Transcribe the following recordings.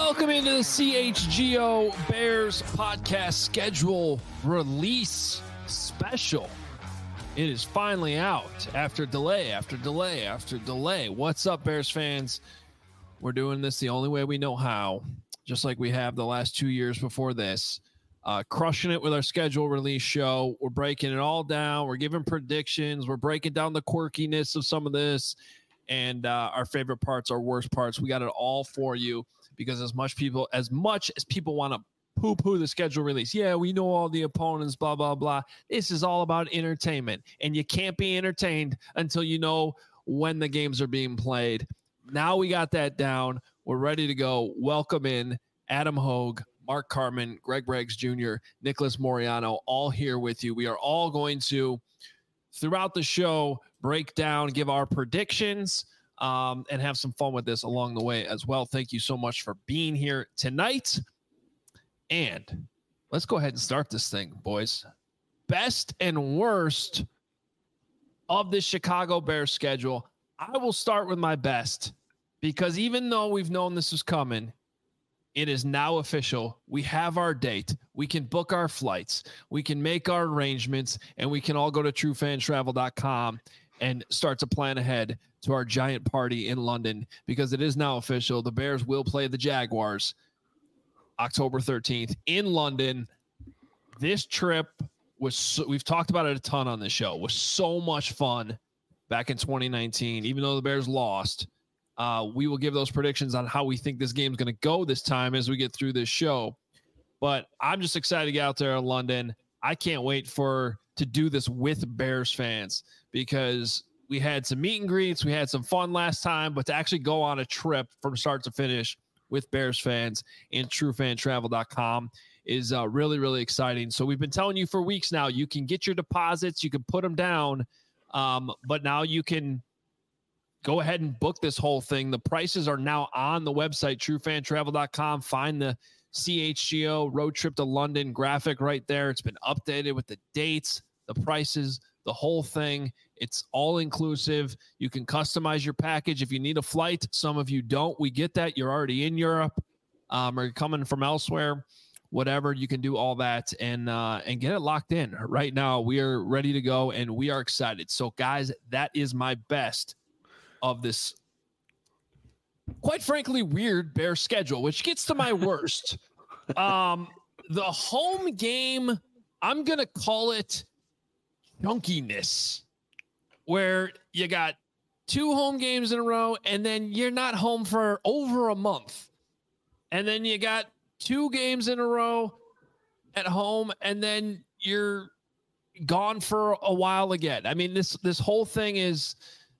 Welcome into the CHGO Bears podcast schedule release special. It is finally out after delay. What's up, Bears fans? We're doing this the only way we know how, just like we have the last 2 years before this. Crushing it with our schedule release show. We're breaking it all down. We're giving predictions. We're breaking down the quirkiness of some of this and our favorite parts, our worst parts. We got it all for you because as much as people want to poo-poo the schedule release, yeah, we know all the opponents, blah, blah, blah. This is all about entertainment, and you can't be entertained until you know when the games are being played. Now we got that down. We're ready to go. Welcome in Adam Hogue, Mark Carman, Greg Braggs Jr., Nicholas Moriano, all here with you. We are all going to, throughout the show, break down, give our predictions, and have some fun with this along the way as well. Thank you so much for being here tonight. And let's go ahead and start this thing, boys. Best and worst of the Chicago Bears schedule. I will start with my best because even though we've known this was coming, it is now official. We have our date. We can book our flights. We can make our arrangements, and we can all go to truefantravel.com and start to plan ahead to our giant party in London because it is now official. The Bears will play the Jaguars October 13th in London. This trip was, we've talked about it a ton on this show, was so much fun back in 2019, even though the Bears lost. We will give those predictions on how we think this game is going to go this time as we get through this show. But I'm just excited to get out there in London. I can't wait to do this with Bears fans because we had some meet and greets. We had some fun last time, but to actually go on a trip from start to finish with Bears fans in truefantravel.com is really, really exciting. So we've been telling you for weeks now, you can get your deposits, you can put them down, but now you can go ahead and book this whole thing. The prices are now on the website, truefantravel.com. Find the CHGO road trip to London graphic right there. It's been updated with the dates, the prices, the whole thing. It's all inclusive. You can customize your package if you need a flight. Some of you don't. We get that. You're already in Europe or you're coming from elsewhere. Whatever, you can do all that and get it locked in. Right now, we are ready to go and we are excited. So, guys, that is my best of this, quite frankly, weird Bear schedule, which gets to my worst. The home game, I'm going to call it chunkiness, where you got 2 home games in a row and then you're not home for over a month. And then you got 2 games in a row at home and then you're gone for a while again. I mean, this whole thing is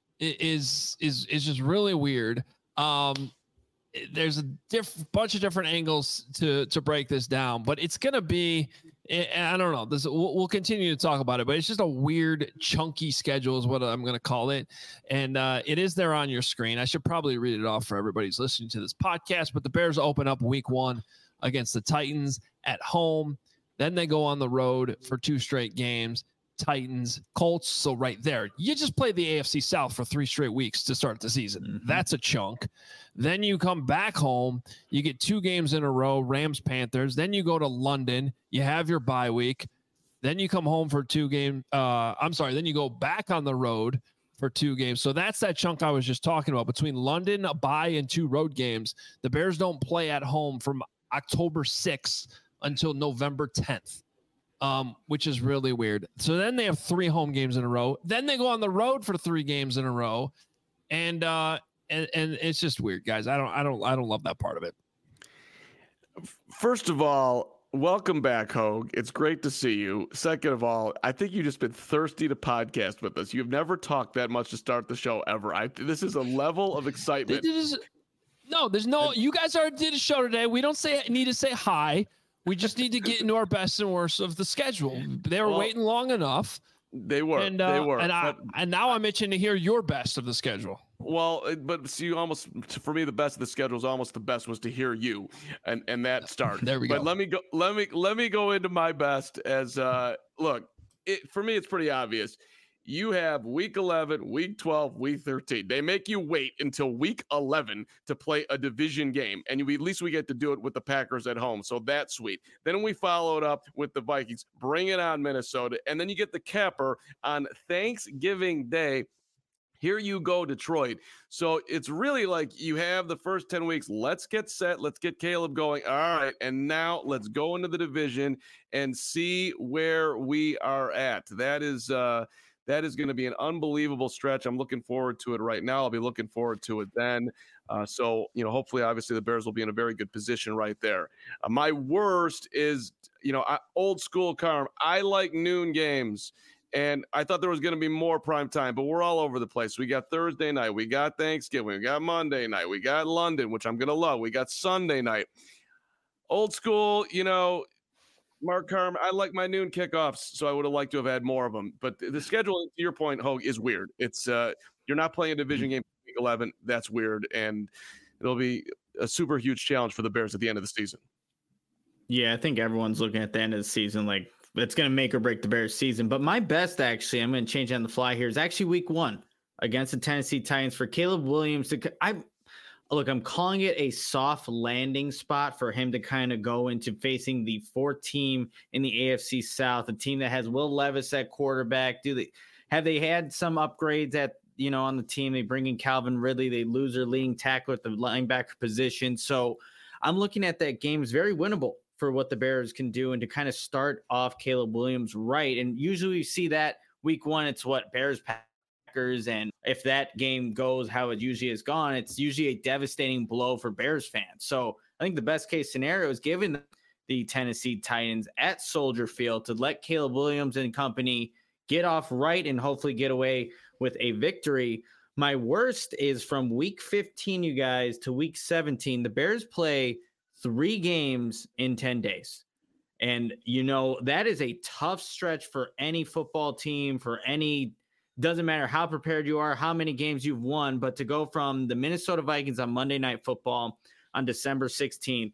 just really weird. There's a bunch of different angles to break this down, but it's going to be, I don't know, we'll continue to talk about it, but it's just a weird chunky schedule is what I'm going to call it. And it is there on your screen. I should probably read it off for everybody who's listening to this podcast, but the Bears open up week 1 against the Titans at home. Then they go on the road for 2 straight games. Titans, Colts. So right there, you just play the AFC South for 3 straight weeks to start the season. Mm-hmm. That's a chunk. Then you come back home. You get 2 games in a row, Rams, Panthers. Then you go to London. You have your bye week. Then you come home for 2 games. Then you go back on the road for 2 games. So that's that chunk I was just talking about between London, a bye, and 2 road games. The Bears don't play at home from October 6th until November 10th. Which is really weird. So then they have 3 home games in a row. Then they go on the road for 3 games in a row, and it's just weird, guys. I don't love that part of it. First of all, welcome back, Hogue. It's great to see you. Second of all, I think you've just been thirsty to podcast with us. You've never talked that much to start the show ever. This is a level of excitement. There's no. You guys already did a show today. We don't need to say hi. We just need to get into our best and worst of the schedule. They were waiting long enough. They were. And now I'm itching to hear your best of the schedule. Well, but see, for me, the best of the schedule is almost the best was to hear you and that start. There we go. But let me go into my best as look. For me, it's pretty obvious. you have week 11, week 12, week 13. They make you wait until week 11 to play a division game. And at least we get to do it with the Packers at home. So that's sweet. Then we followed up with the Vikings. Bring it on, Minnesota. And then you get the capper on Thanksgiving Day. Here you go, Detroit. So it's really like you have the first 10 weeks. Let's get set. Let's get Caleb going. All right. And now let's go into the division and see where we are at. That is going to be an unbelievable stretch. I'm looking forward to it right now. I'll be looking forward to it then. So, hopefully, obviously, the Bears will be in a very good position right there. My worst is, old school Carm. I like noon games. And I thought there was going to be more prime time, but we're all over the place. We got Thursday night. We got Thanksgiving. We got Monday night. We got London, which I'm going to love. We got Sunday night. Old school, Mark Carm, I like my noon kickoffs, so I would have liked to have had more of them. But the schedule, to your point, Hogue, is weird. It's you're not playing a division game week 11. That's weird, and it'll be a super huge challenge for the Bears at the end of the season. Yeah, I think everyone's looking at the end of the season like it's going to make or break the Bears season. But my best, actually, I'm going to change on the fly here, is actually week 1 against the Tennessee Titans for Caleb Williams. I'm calling it a soft landing spot for him to kind of go into facing the 4th team in the AFC South, a team that has Will Levis at quarterback. Have they had some upgrades on the team? They bring in Calvin Ridley. They lose their leading tackle at the linebacker position. So I'm looking at that game as very winnable for what the Bears can do and to kind of start off Caleb Williams right. And usually we see that week 1, it's what Bears Packers. And if that game goes how it usually has gone, it's usually a devastating blow for Bears fans. So I think the best case scenario is given the Tennessee Titans at Soldier Field to let Caleb Williams and company get off right and hopefully get away with a victory. My worst is from week 15, you guys, to week 17. The Bears play 3 games in 10 days. And, that is a tough stretch for any football team, doesn't matter how prepared you are, how many games you've won, but to go from the Minnesota Vikings on Monday Night Football on December 16th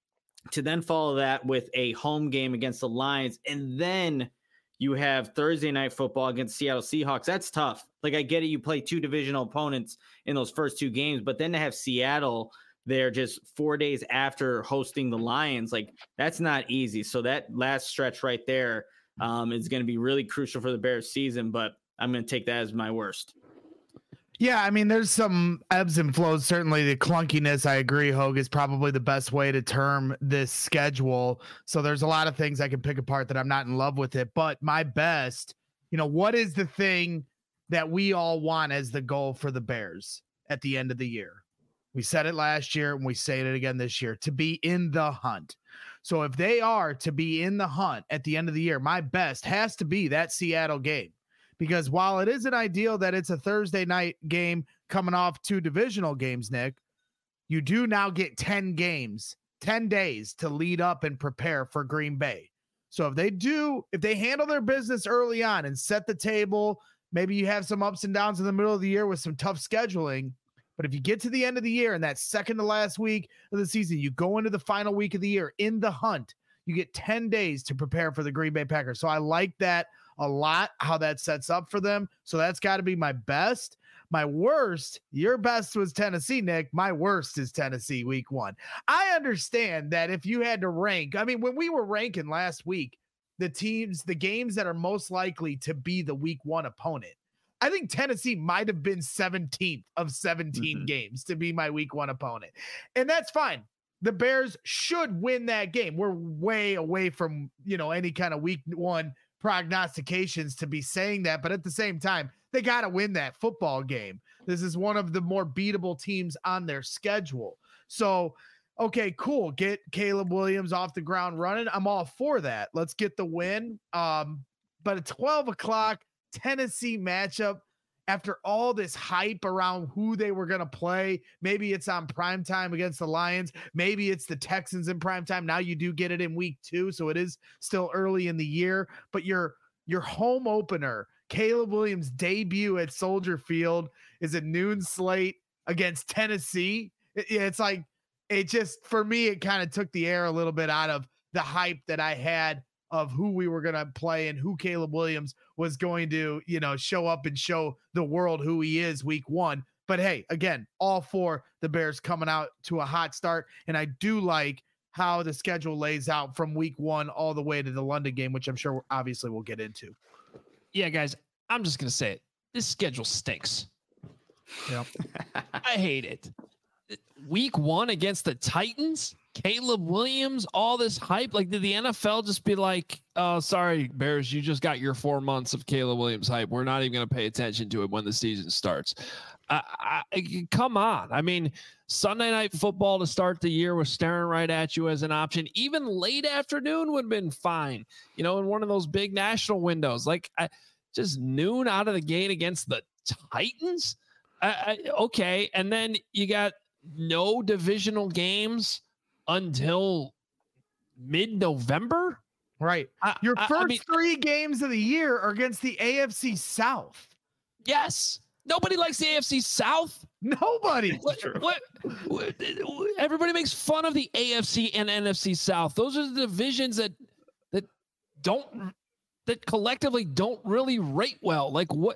to then follow that with a home game against the Lions. And then you have Thursday Night Football against Seattle Seahawks. That's tough. Like, I get it. You play 2 divisional opponents in those first 2 games, but then to have Seattle there just 4 days after hosting the Lions, like, that's not easy. So that last stretch right there is going to be really crucial for the Bears season, but I'm going to take that as my worst. Yeah, I mean, there's some ebbs and flows. Certainly the clunkiness, I agree, Hogue, is probably the best way to term this schedule. So there's a lot of things I can pick apart that I'm not in love with it. But my best, what is the thing that we all want as the goal for the Bears at the end of the year? We said it last year and we say it again this year, to be in the hunt. So if they are to be in the hunt at the end of the year, my best has to be that Seattle game. Because while it isn't ideal that it's a Thursday night game coming off 2 divisional games, Nick, you do now get 10 games, 10 days to lead up and prepare for Green Bay. So if they handle their business early on and set the table, maybe you have some ups and downs in the middle of the year with some tough scheduling. But if you get to the end of the year and that second to last week of the season, you go into the final week of the year in the hunt, you get 10 days to prepare for the Green Bay Packers. So I like that a lot, how that sets up for them. So that's got to be my best. My worst, your best was Tennessee, Nick. My worst is Tennessee week 1. I understand that if you had to rank, I mean, when we were ranking last week, the games that are most likely to be the week 1 opponent, I think Tennessee might have been 17th of 17 games to be my week 1 opponent. And that's fine. The Bears should win that game. We're way away from, any kind of week 1 prognostications to be saying that. But at the same time, they got to win that football game. This is one of the more beatable teams on their schedule. So, okay, cool. Get Caleb Williams off the ground running. I'm all for that. Let's get the win. But at 12 o'clock, Tennessee matchup, after all this hype around who they were going to play, maybe it's on primetime against the Lions. Maybe it's the Texans in primetime. Now you do get it in week 2, so it is still early in the year. But your home opener, Caleb Williams' debut at Soldier Field, is a noon slate against Tennessee. It's like, it just, for me, it kind of took the air a little bit out of the hype that I had of who we were going to play and who Caleb Williams was going to, show up and show the world who he is week 1. But hey, again, all for the Bears coming out to a hot start. And I do like how the schedule lays out from week 1 all the way to the London game, which I'm sure obviously we'll get into. Yeah, guys, I'm just going to say it. This schedule stinks. Yep. I hate it. Week 1 against the Titans, Caleb Williams, all this hype. Like, did the NFL just be like, oh, sorry, Bears, you just got your 4 months of Caleb Williams hype. We're not even going to pay attention to it when the season starts. Come on. I mean, Sunday Night Football to start the year was staring right at you as an option. Even late afternoon would have been fine, in one of those big national windows. Like, just noon out of the gate against the Titans. Okay. And then you got no divisional games until mid-November. Right. Your first 3 games of the year are against the AFC South. Yes. Nobody likes the AFC South. Nobody. What? Everybody makes fun of the AFC and NFC South. Those are the divisions that collectively don't really rate well. Like what?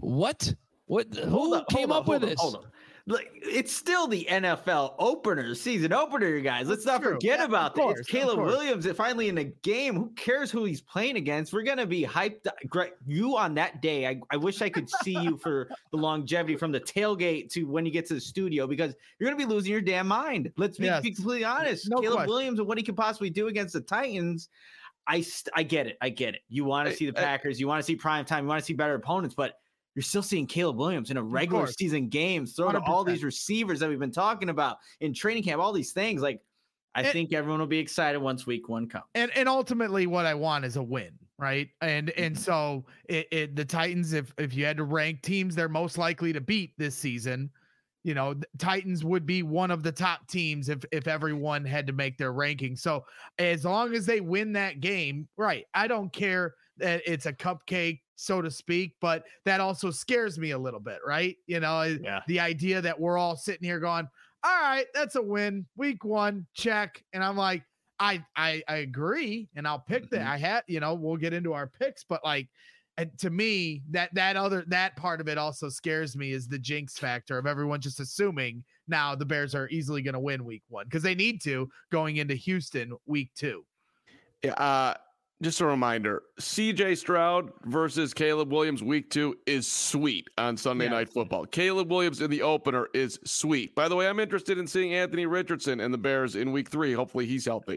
Who came up with this? Hold on. It's still the NFL season opener, you guys. Let's not forget about that. It's Caleb Williams finally in the game. Who cares who he's playing against? We're going to be hyped. You on that day, I wish I could see you for the longevity from the tailgate to when you get to the studio, because you're going to be losing your damn mind. Let's be completely honest. Caleb Williams and what he could possibly do against the Titans. I get it. You want to see the Packers. You want to see prime time. You want to see better opponents, but you're still seeing Caleb Williams in a regular season game throw to all these receivers that we've been talking about in training camp, all these things. Like, I think everyone will be excited once week 1 comes. And ultimately what I want is a win, right? And so the Titans, if you had to rank teams they're most likely to beat this season, Titans would be one of the top teams if everyone had to make their ranking. So as long as they win that game, right, I don't care that it's a cupcake, so to speak, but that also scares me a little bit, right? The idea that we're all sitting here going, all right, that's a win, week 1, check. And I'm like, I agree, and I'll pick that. I had, we'll get into our picks, but like, and to me, that part of it also scares me, is the jinx factor of everyone just assuming now the Bears are easily going to win week 1 because they need to going into Houston week 2. Yeah. Just a reminder, CJ Stroud versus Caleb Williams week 2 is sweet on Sunday Night Football. Caleb Williams in the opener is sweet. By the way, I'm interested in seeing Anthony Richardson and the Bears in week 3. Hopefully he's healthy.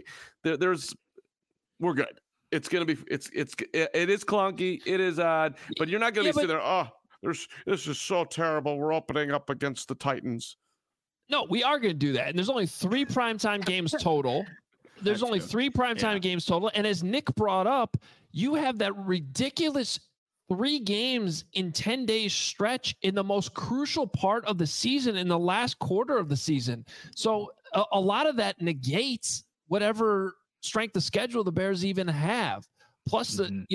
We're good. It's going to be, it is clunky. It is odd, but you're not going to be sitting there. This is so terrible. We're opening up against the Titans. No, we are going to do that. And there's only 3 primetime games total. There's only 3 primetime games total. And as Nick brought up, you have that ridiculous 3 games in 10 days stretch in the most crucial part of the season, in the last quarter of the season. So a lot of that negates whatever strength of schedule the Bears even have. Plus and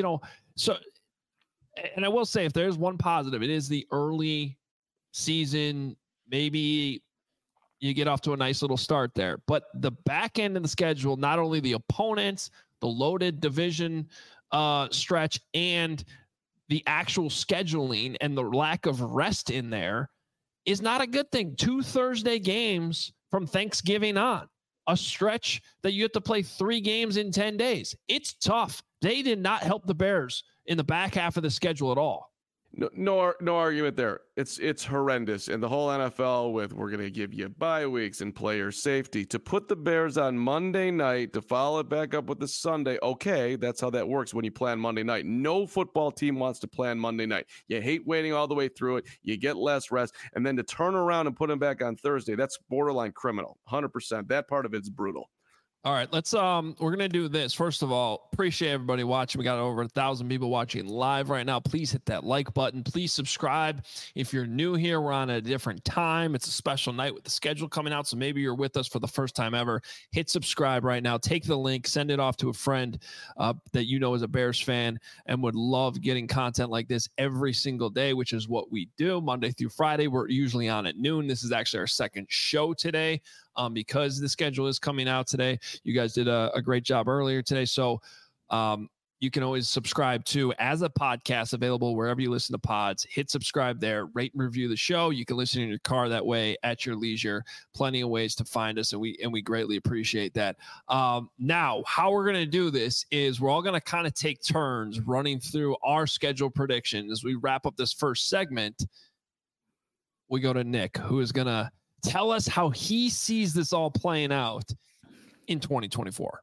I will say, if there's one positive, it is the early season. Maybe you get off to a nice little start there, but the back end of the schedule, not only the opponents, the loaded division stretch, and the actual scheduling and the lack of rest in there is not a good thing. 2 Thursday games from Thanksgiving on, a stretch that you have to play 3 games in 10 days. It's tough. They did not help the Bears in the back half of the schedule at all. No argument there. It's horrendous. And the whole NFL with, we're going to give you bye weeks and player safety, to put the Bears on Monday night to follow it back up with the Sunday. Okay, that's how that works when you plan Monday night. No football team wants to plan Monday night. You hate waiting all the way through it. You get less rest. And then to turn around and put them back on Thursday, that's borderline criminal. 100%. That part of it's brutal. All right, let's we're gonna do this. First of all, appreciate everybody watching. We got over 1,000 people watching live right now. Please hit that like button. Please subscribe. If you're new here, we're on a different time. It's a special night with the schedule coming out, so maybe you're with us for the first time ever. Hit subscribe right now. Take the link, send it off to a friend that you know is a Bears fan and would love getting content like this every single day, which is what we do Monday through Friday. We're usually on at noon. This is actually our second show today. Because the schedule is coming out today. You guys did a great job earlier today. So You can always subscribe to as a podcast, available wherever you listen to pods. Hit subscribe there, rate and review the show. You can listen in your car that way at your leisure. Plenty of ways to find us, and we greatly appreciate that. Now, how we're going to do this is we're all going to kind of take turns running through our schedule predictions. As we wrap up this first segment, we go to Nick, who is going to tell us how he sees this all playing out in 2024.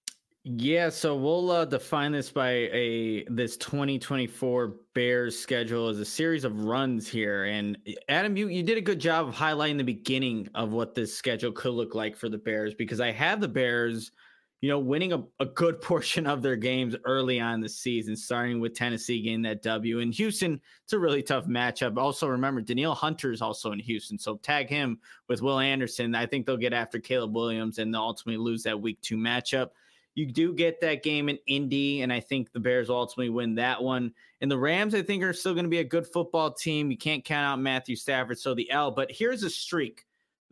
Yeah, so we'll define this by this 2024 Bears schedule as a series of runs here. And Adam, you did a good job of highlighting the beginning of what this schedule could look like for the Bears, because I have the Bears, winning a good portion of their games early on this season, starting with Tennessee getting that W. In Houston, it's a really tough matchup. Also, remember, Danielle Hunter is also in Houston, so tag him with Will Anderson. I think they'll get after Caleb Williams and they'll ultimately lose that Week 2 matchup. You do get that game in Indy, and I think the Bears will ultimately win that one. And the Rams, I think, are still going to be a good football team. You can't count out Matthew Stafford, so the L. But here's a streak,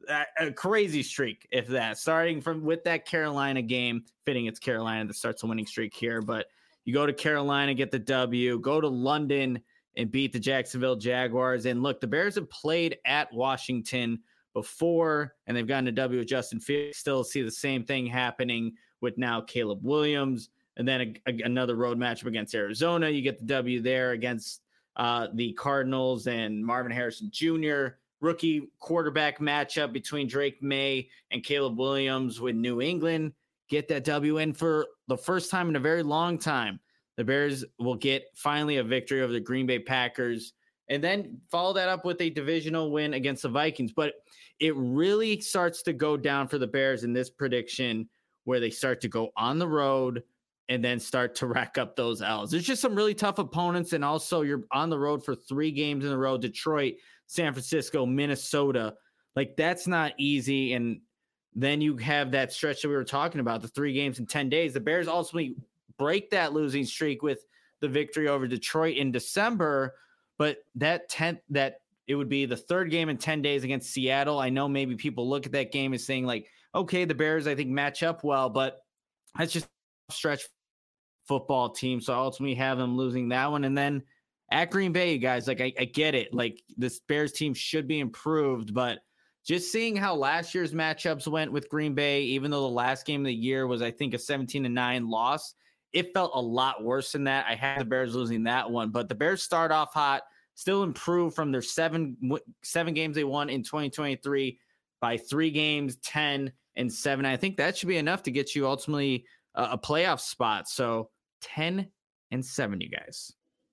a crazy streak, if that. Starting with that Carolina game, fitting it's Carolina that starts a winning streak here. But you go to Carolina, get the W, go to London and beat the Jacksonville Jaguars. And look, the Bears have played at Washington before, and they've gotten a W with Justin Fields. Still see the same thing happening with now Caleb Williams, and then another road matchup against Arizona. You get the W there against the Cardinals and Marvin Harrison Jr. Rookie quarterback matchup between Drake May and Caleb Williams with New England. Get that W in for the first time in a very long time. The Bears will get finally a victory over the Green Bay Packers, and then follow that up with a divisional win against the Vikings. But it really starts to go down for the Bears in this prediction, where they start to go on the road and then start to rack up those L's. There's just some really tough opponents, and also you're on the road for 3 games in a row: Detroit, San Francisco, Minnesota. Like, that's not easy. And then you have that stretch that we were talking about, the 3 games in 10 days. The Bears ultimately break that losing streak with the victory over Detroit in December, but that it would be the 3rd game in 10 days against Seattle. I know maybe people look at that game as saying, like, okay, the Bears, I think, match up well, but that's just a stretch football team. So I ultimately have them losing that one. And then at Green Bay, you guys, like, I get it. Like, this Bears team should be improved, but just seeing how last year's matchups went with Green Bay, even though the last game of the year was, I think, a 17-9 loss, it felt a lot worse than that. I had the Bears losing that one, but the Bears start off hot, still improve from their 7 games they won in 2023 by 3 games, 10-7. I think that should be enough to get you ultimately a playoff spot. So 10-7, you guys.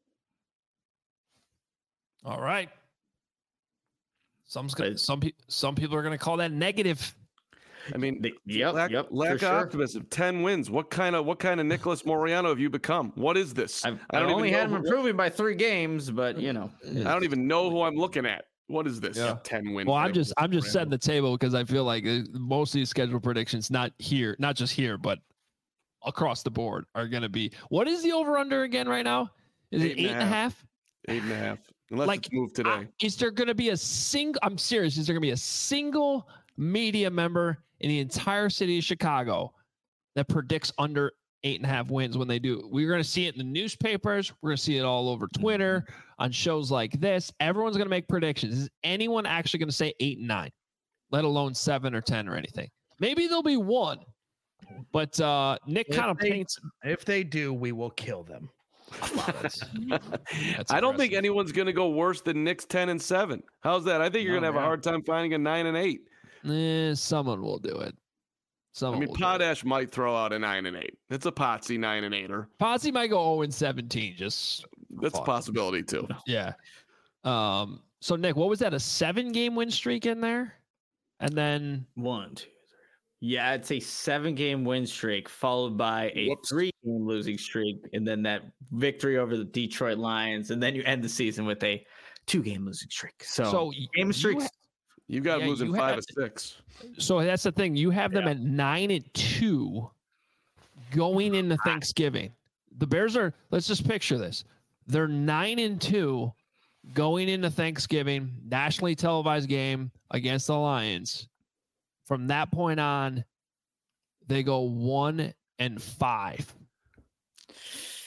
All right. Some people are going to call that negative. I mean, lack of optimism. 10 wins. What kind of Nicholas Moreano have you become? What is this? I only had him improving by 3 games, but I don't even know who I'm looking at. What is this? Yeah. 10 wins. Well, I'm just setting the table, because I feel like most of these schedule predictions, not just here, but across the board, are going to be. What is the over under again right now? Is it 8.5? 8.5. Unless it's moved today. Is there going to be I'm serious. Is there going to be a single media member in the entire city of Chicago that predicts under 8.5 wins when they do? We're going to see it in the newspapers. We're going to see it all over Twitter, on shows like this. Everyone's going to make predictions. Is anyone actually going to say 8-9, let alone 7 or 10 or anything? Maybe there'll be one, but Nick kind of paints. If they do, we will kill them. I don't think anyone's going to go worse than Nick's 10-7. How's that? I think you're going to have a hard time finding a 9-8. Someone will do it. Potash might throw out a 9-8. It's a Potsy 9-8er. Potsy might go 0-17. That's a possibility too. Yeah. So Nick, what was that? A 7-game win streak in there, and then 1, 2, 3. Yeah, it's a 7-game win streak followed by a 3-game losing streak, and then that victory over the Detroit Lions, and then you end the season with a 2-game losing streak. So game streaks. You got losing 5 of 6. So that's the thing. You have them at 9-2 going into Thanksgiving. The Bears are. Let's just picture this. They're 9-2 going into Thanksgiving, nationally televised game against the Lions. From that point on, they go 1-5.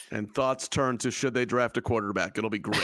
And thoughts turn to should they draft a quarterback? It'll be great.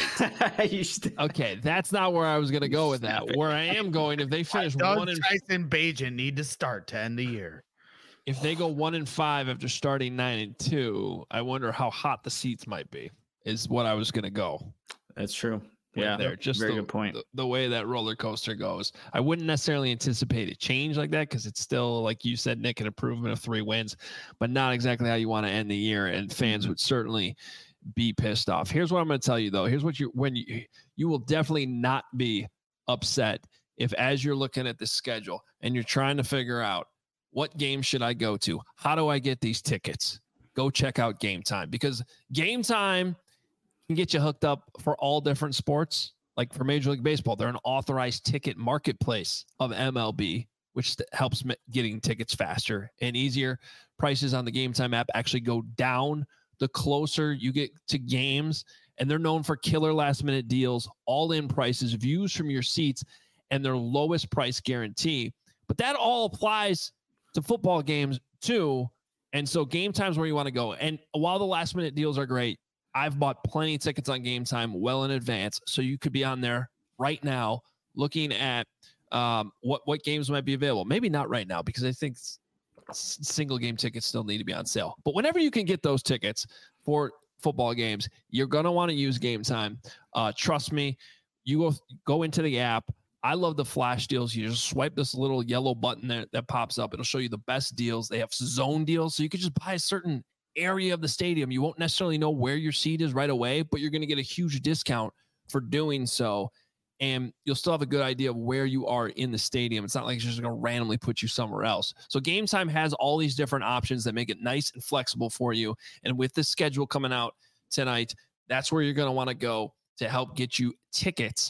Okay, that's not where I was going to go with that. Where I am going, if they finish Tyson Bagent need to start to end the year. If they go 1-5 after starting 9-2, I wonder how hot the seats might be. Is what I was going to go. That's true. Yeah, there. Just very good point. The way that roller coaster goes, I wouldn't necessarily anticipate a change like that because it's still, like you said, Nick, an improvement of 3 wins, but not exactly how you want to end the year. And fans would certainly be pissed off. Here's what I'm going to tell you, though. Here's what you will definitely not be upset if, as you're looking at the schedule and you're trying to figure out what game should I go to, how do I get these tickets? Go check out Game Time, because Game Time can get you hooked up for all different sports. Like for Major League Baseball, they're an authorized ticket marketplace of MLB, which helps getting tickets faster and easier. Prices on the Game Time app actually go down the closer you get to games, and they're known for killer last-minute deals, all-in prices, views from your seats, and their lowest price guarantee. But that all applies to football games too, and so Game Time's where you want to go. And while the last-minute deals are great, I've bought plenty of tickets on Game Time well in advance, so you could be on there right now looking at what games might be available. Maybe not right now, because I think single game tickets still need to be on sale. But whenever you can get those tickets for football games, you're going to want to use Game Time. Trust me, you go into the app. I love the flash deals. You just swipe this little yellow button there that pops up. It'll show you the best deals. They have zone deals, so you could just buy a certain area of the stadium. You won't necessarily know where your seat is right away, but you're going to get a huge discount for doing so. And you'll still have a good idea of where you are in the stadium. It's not like it's just going to randomly put you somewhere else. So Game Time has all these different options that make it nice and flexible for you. And with the schedule coming out tonight, that's where you're going to want to go to help get you tickets.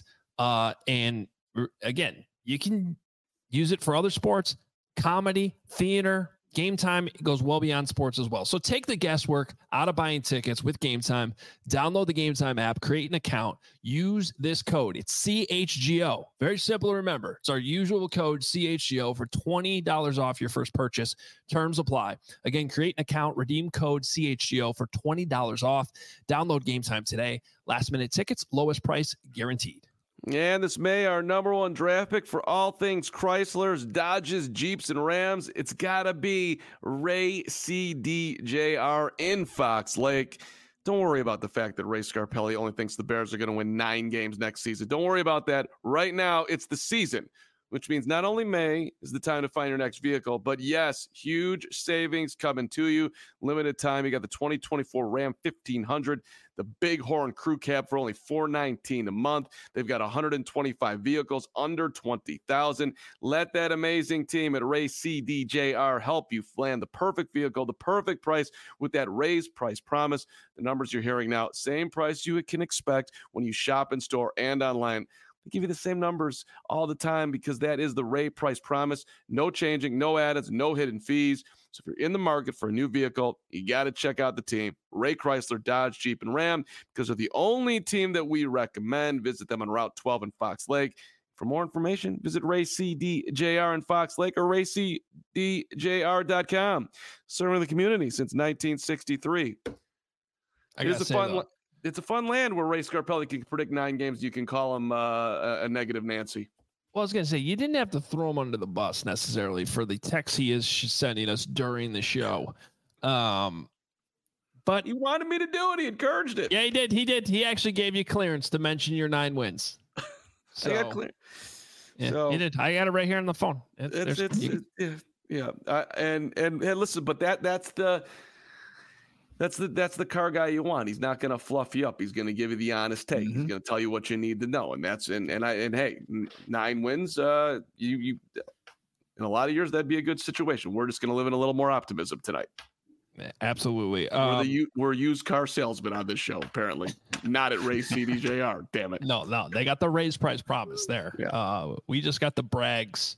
And again, you can use it for other sports, comedy, theater. Game Time goes well beyond sports as well. So take the guesswork out of buying tickets with Game Time. Download the Game Time app, create an account, use this code. It's CHGO. Very simple to remember. It's our usual code, CHGO, for $20 off your first purchase. Terms apply. Again, create an account, redeem code CHGO for $20 off. Download Game Time today. Last minute tickets, lowest price guaranteed. And this May, our number one draft pick for all things Chryslers, Dodges, Jeeps, and Rams, it's got to be Ray CDJR in Fox Lake. Don't worry about the fact that Ray Scarpelli only thinks the Bears are going to win 9 games next season. Don't worry about that. Right now, it's the season, which means not only May is the time to find your next vehicle, but yes, huge savings coming to you. Limited time. You got the 2024 Ram 1500, the Bighorn Crew Cab for only $419 a month. They've got 125 vehicles under $20,000. Let that amazing team at Ray CDJR help you land the perfect vehicle, the perfect price with that raised price promise. The numbers you're hearing now, same price you can expect when you shop in store and online. They give you the same numbers all the time because that is the Ray price promise. No changing, no add-ons, no hidden fees. So if you're in the market for a new vehicle, you got to check out the team, Ray Chrysler, Dodge, Jeep, and Ram, because they're the only team that we recommend. Visit them on Route 12 in Fox Lake. For more information, visit Ray CDJR in Fox Lake or raycdjr.com. Serving the community since 1963. It's a fun land where Ray Scarpelli can predict 9 games. You can call him a negative Nancy. Well, I was going to say, you didn't have to throw him under the bus necessarily for the text he is sending us during the show. But he wanted me to do it. He encouraged it. Yeah, he did. He actually gave you clearance to mention your 9 wins. So, I got clear. Yeah, so, he did. I got it right here on the phone. And listen, but that's the car guy you want. He's not going to fluff you up. He's going to give you the honest take. Mm-hmm. He's going to tell you what you need to know. And hey, 9 wins. You in a lot of years that'd be a good situation. We're just going to live in a little more optimism tonight. Absolutely. We're used car salesmen on this show, apparently. Not at Ray CDJR. Damn it. No, they got the raised price promise there. Yeah. We just got the Bragg's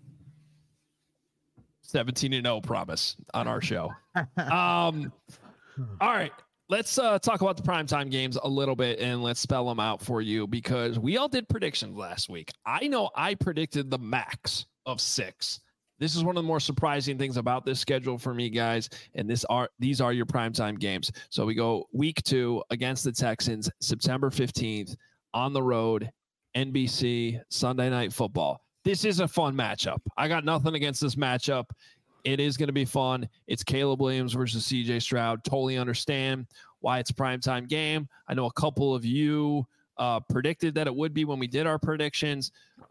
17-0 promise on our show. All right, let's talk about the primetime games a little bit, and let's spell them out for you because we all did predictions last week. I know I predicted the max of 6. This is one of the more surprising things about this schedule for me, guys. And these are your primetime games. So we go week 2 against the Texans, September 15th on the road, NBC, Sunday Night Football. This is a fun matchup. I got nothing against this matchup. It is going to be fun. It's Caleb Williams versus CJ Stroud. Totally understand why it's a primetime game. I know a couple of you predicted that it would be when we did our predictions.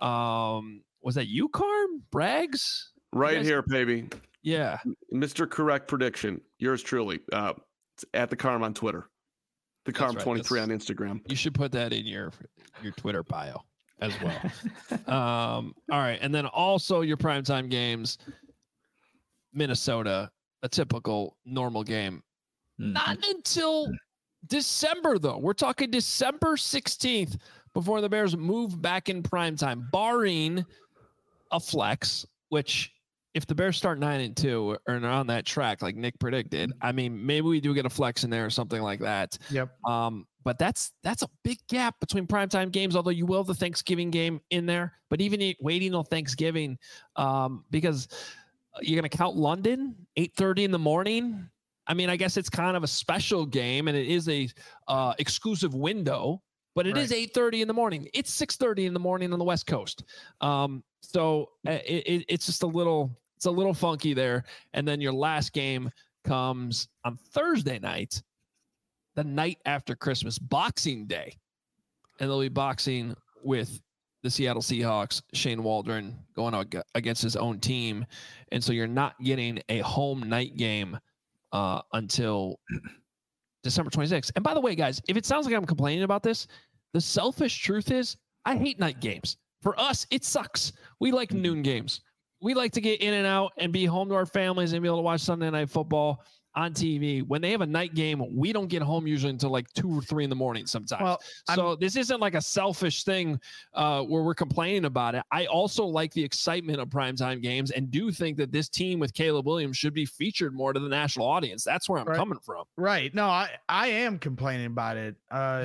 Was that you, Carm? Braggs? Right here, baby. Yeah. Mr. Correct Prediction. Yours truly. It's at the Carm on Twitter. The Carm 23 on Instagram. You should put that in your Twitter bio as well. All right. And then also your primetime games. Minnesota, a typical normal game. Not until December, though. We're talking December 16th before the Bears move back in primetime, barring a flex, which if the Bears start 9-2 or on that track, like Nick predicted, I mean, maybe we do get a flex in there or something like that. Yep. But that's a big gap between primetime games, although you will have the Thanksgiving game in there. But even waiting till Thanksgiving, because you're going to count London, 8:30 in the morning. I mean, I guess it's kind of a special game, and it is a exclusive window, but it is 8:30 in the morning. It's 6:30 in the morning on the West Coast. So it's just a little funky there. And then your last game comes on Thursday night, the night after Christmas, Boxing Day, and they'll be boxing with the Seattle Seahawks, Shane Waldron going against his own team. And so you're not getting a home night game until December 26th. And by the way, guys, if it sounds like I'm complaining about this, the selfish truth is I hate night games. For us, it sucks. We like noon games. We like to get in and out and be home to our families and be able to watch Sunday Night Football on TV. When they have a night game, we don't get home usually until like 2 or 3 in the morning sometimes. Well, so this isn't like a selfish thing where we're complaining about it. I also like the excitement of primetime games and do think that this team with Caleb Williams should be featured more to the national audience. That's where I'm coming from. Right. No, I am complaining about it.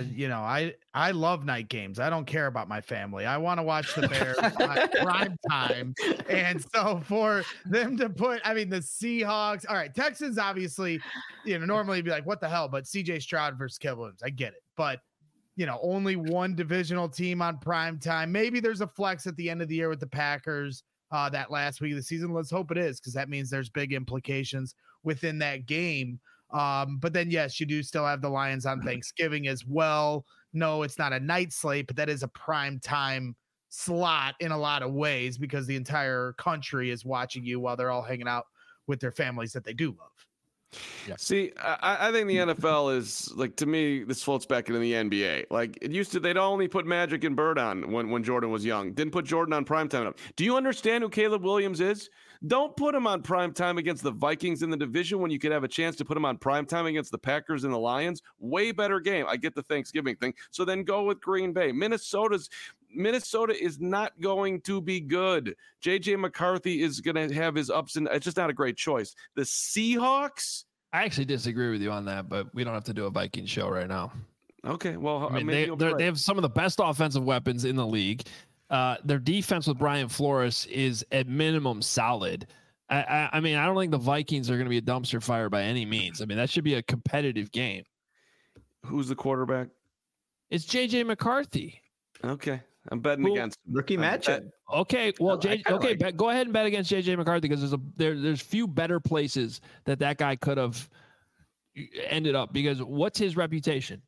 I love night games. I don't care about my family. I want to watch the Bears prime time. And so for them to put, I mean, the Seahawks, all right, Texans obviously, normally be like, what the hell? But CJ Stroud versus Caleb Williams, I get it. But, only one divisional team on prime time. Maybe there's a flex at the end of the year with the Packers that last week of the season. Let's hope it is, because that means there's big implications within that game. But then, yes, you do still have the Lions on Thanksgiving as well. No, it's not a night slate, but that is a prime time slot in a lot of ways because the entire country is watching you while they're all hanging out with their families that they do love. Yeah. See, I think the NFL is like, to me, this floats back into the NBA. Like it used to, they'd only put Magic and Bird on when Jordan was young. Didn't put Jordan on primetime enough. Do you understand who Caleb Williams is? Don't put him on primetime against the Vikings in the division when you could have a chance to put him on primetime against the Packers and the Lions. Way better game. I get the Thanksgiving thing. So then go with Green Bay. Minnesota is not going to be good. J.J. McCarthy is going to have his ups and it's just not a great choice. The Seahawks? I actually disagree with you on that, but we don't have to do a Viking show right now. Okay, well, I mean, they have some of the best offensive weapons in the league. Their defense with Brian Flores is at minimum solid. I mean, I don't think the Vikings are going to be a dumpster fire by any means. I mean, that should be a competitive game. Who's the quarterback? It's J.J. McCarthy. Okay. I'm betting against him. Rookie matchup. Okay, well, go ahead and bet against J.J. McCarthy because there's few better places that guy could have ended up. Because what's his reputation?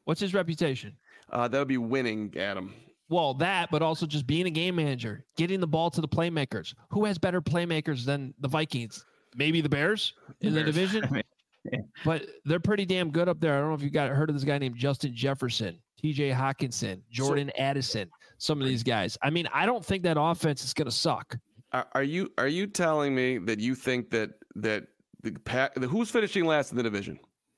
That would be winning, Adam. Well, but also just being a game manager, getting the ball to the playmakers. Who has better playmakers than the Vikings? Maybe the Bears in the division, but they're pretty damn good up there. I don't know if you heard of this guy named Justin Jefferson, T.J. Hawkinson, Jordan Addison. Some of these guys. I mean, I don't think that offense is going to suck. Are you telling me that you think that who's finishing last in the division?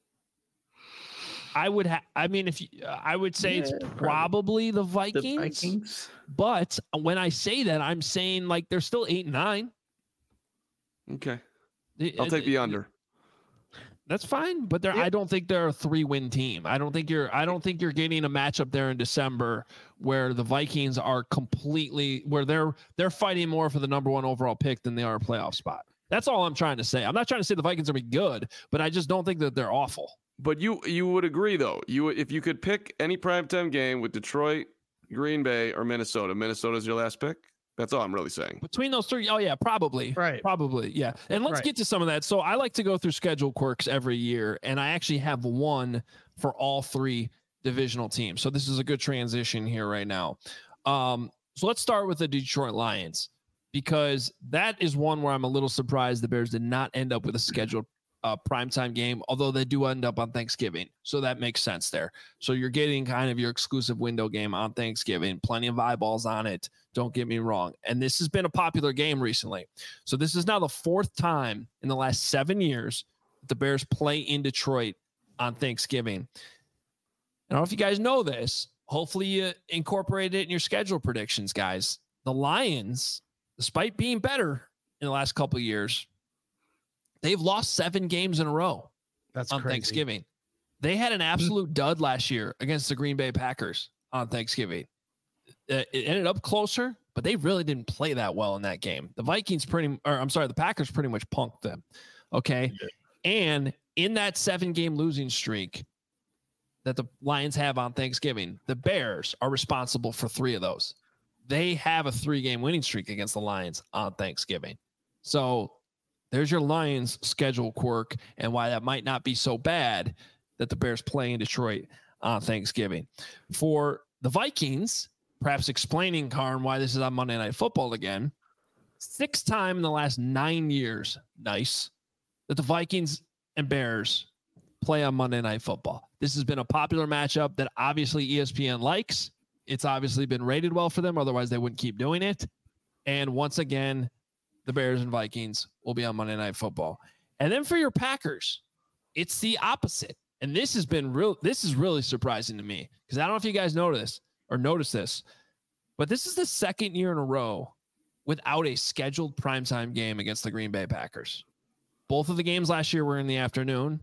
I would say it's probably the Vikings. But when I say that, I'm saying like they're still 8-9. Okay. I'll take the under. That's fine, but I don't think they're a 3-win team. I don't think you're getting a matchup there in December where the Vikings are completely where they're fighting more for the number 1 overall pick than they are a playoff spot. That's all I'm trying to say. I'm not trying to say the Vikings are be good, but I just don't think that they're awful. But you would agree though. If you could pick any primetime game with Detroit, Green Bay, or Minnesota's your last pick. That's all I'm really saying. Between those three, oh yeah, probably. Right. Probably, yeah. And let's get to some of that. So I like to go through schedule quirks every year, and I actually have one for all 3 divisional teams. So this is a good transition here right now. So let's start with the Detroit Lions, because that is one where I'm a little surprised the Bears did not end up with a scheduled primetime game, although they do end up on Thanksgiving. So that makes sense there. So you're getting kind of your exclusive window game on Thanksgiving, plenty of eyeballs on it. Don't get me wrong. And this has been a popular game recently. So this is now the 4th time in the last 7 years that the Bears play in Detroit on Thanksgiving. I don't know if you guys know this. Hopefully you incorporate it in your schedule predictions, guys. The Lions, despite being better in the last couple of years, they've lost 7 games in a row. That's on crazy. Thanksgiving. They had an absolute dud last year against the Green Bay Packers on Thanksgiving. It ended up closer, but they really didn't play that well in that game. The Packers pretty much punked them. Okay. Yeah. And in that 7-game losing streak that the Lions have on Thanksgiving, the Bears are responsible for 3 of those. They have a 3-game winning streak against the Lions on Thanksgiving. So there's your Lions schedule quirk and why that might not be so bad that the Bears play in Detroit on Thanksgiving. For the Vikings, perhaps explaining, Karn, why this is on Monday Night Football again, 6th time in the last 9 years, that the Vikings and Bears play on Monday Night Football. This has been a popular matchup that obviously ESPN likes. It's obviously been rated well for them. Otherwise, they wouldn't keep doing it. And once again, the Bears and Vikings will be on Monday Night Football. And then for your Packers, it's the opposite. And this is really surprising to me, because I don't know if you guys notice this, but this is the 2nd year in a row without a scheduled primetime game against the Green Bay Packers. Both of the games last year were in the afternoon,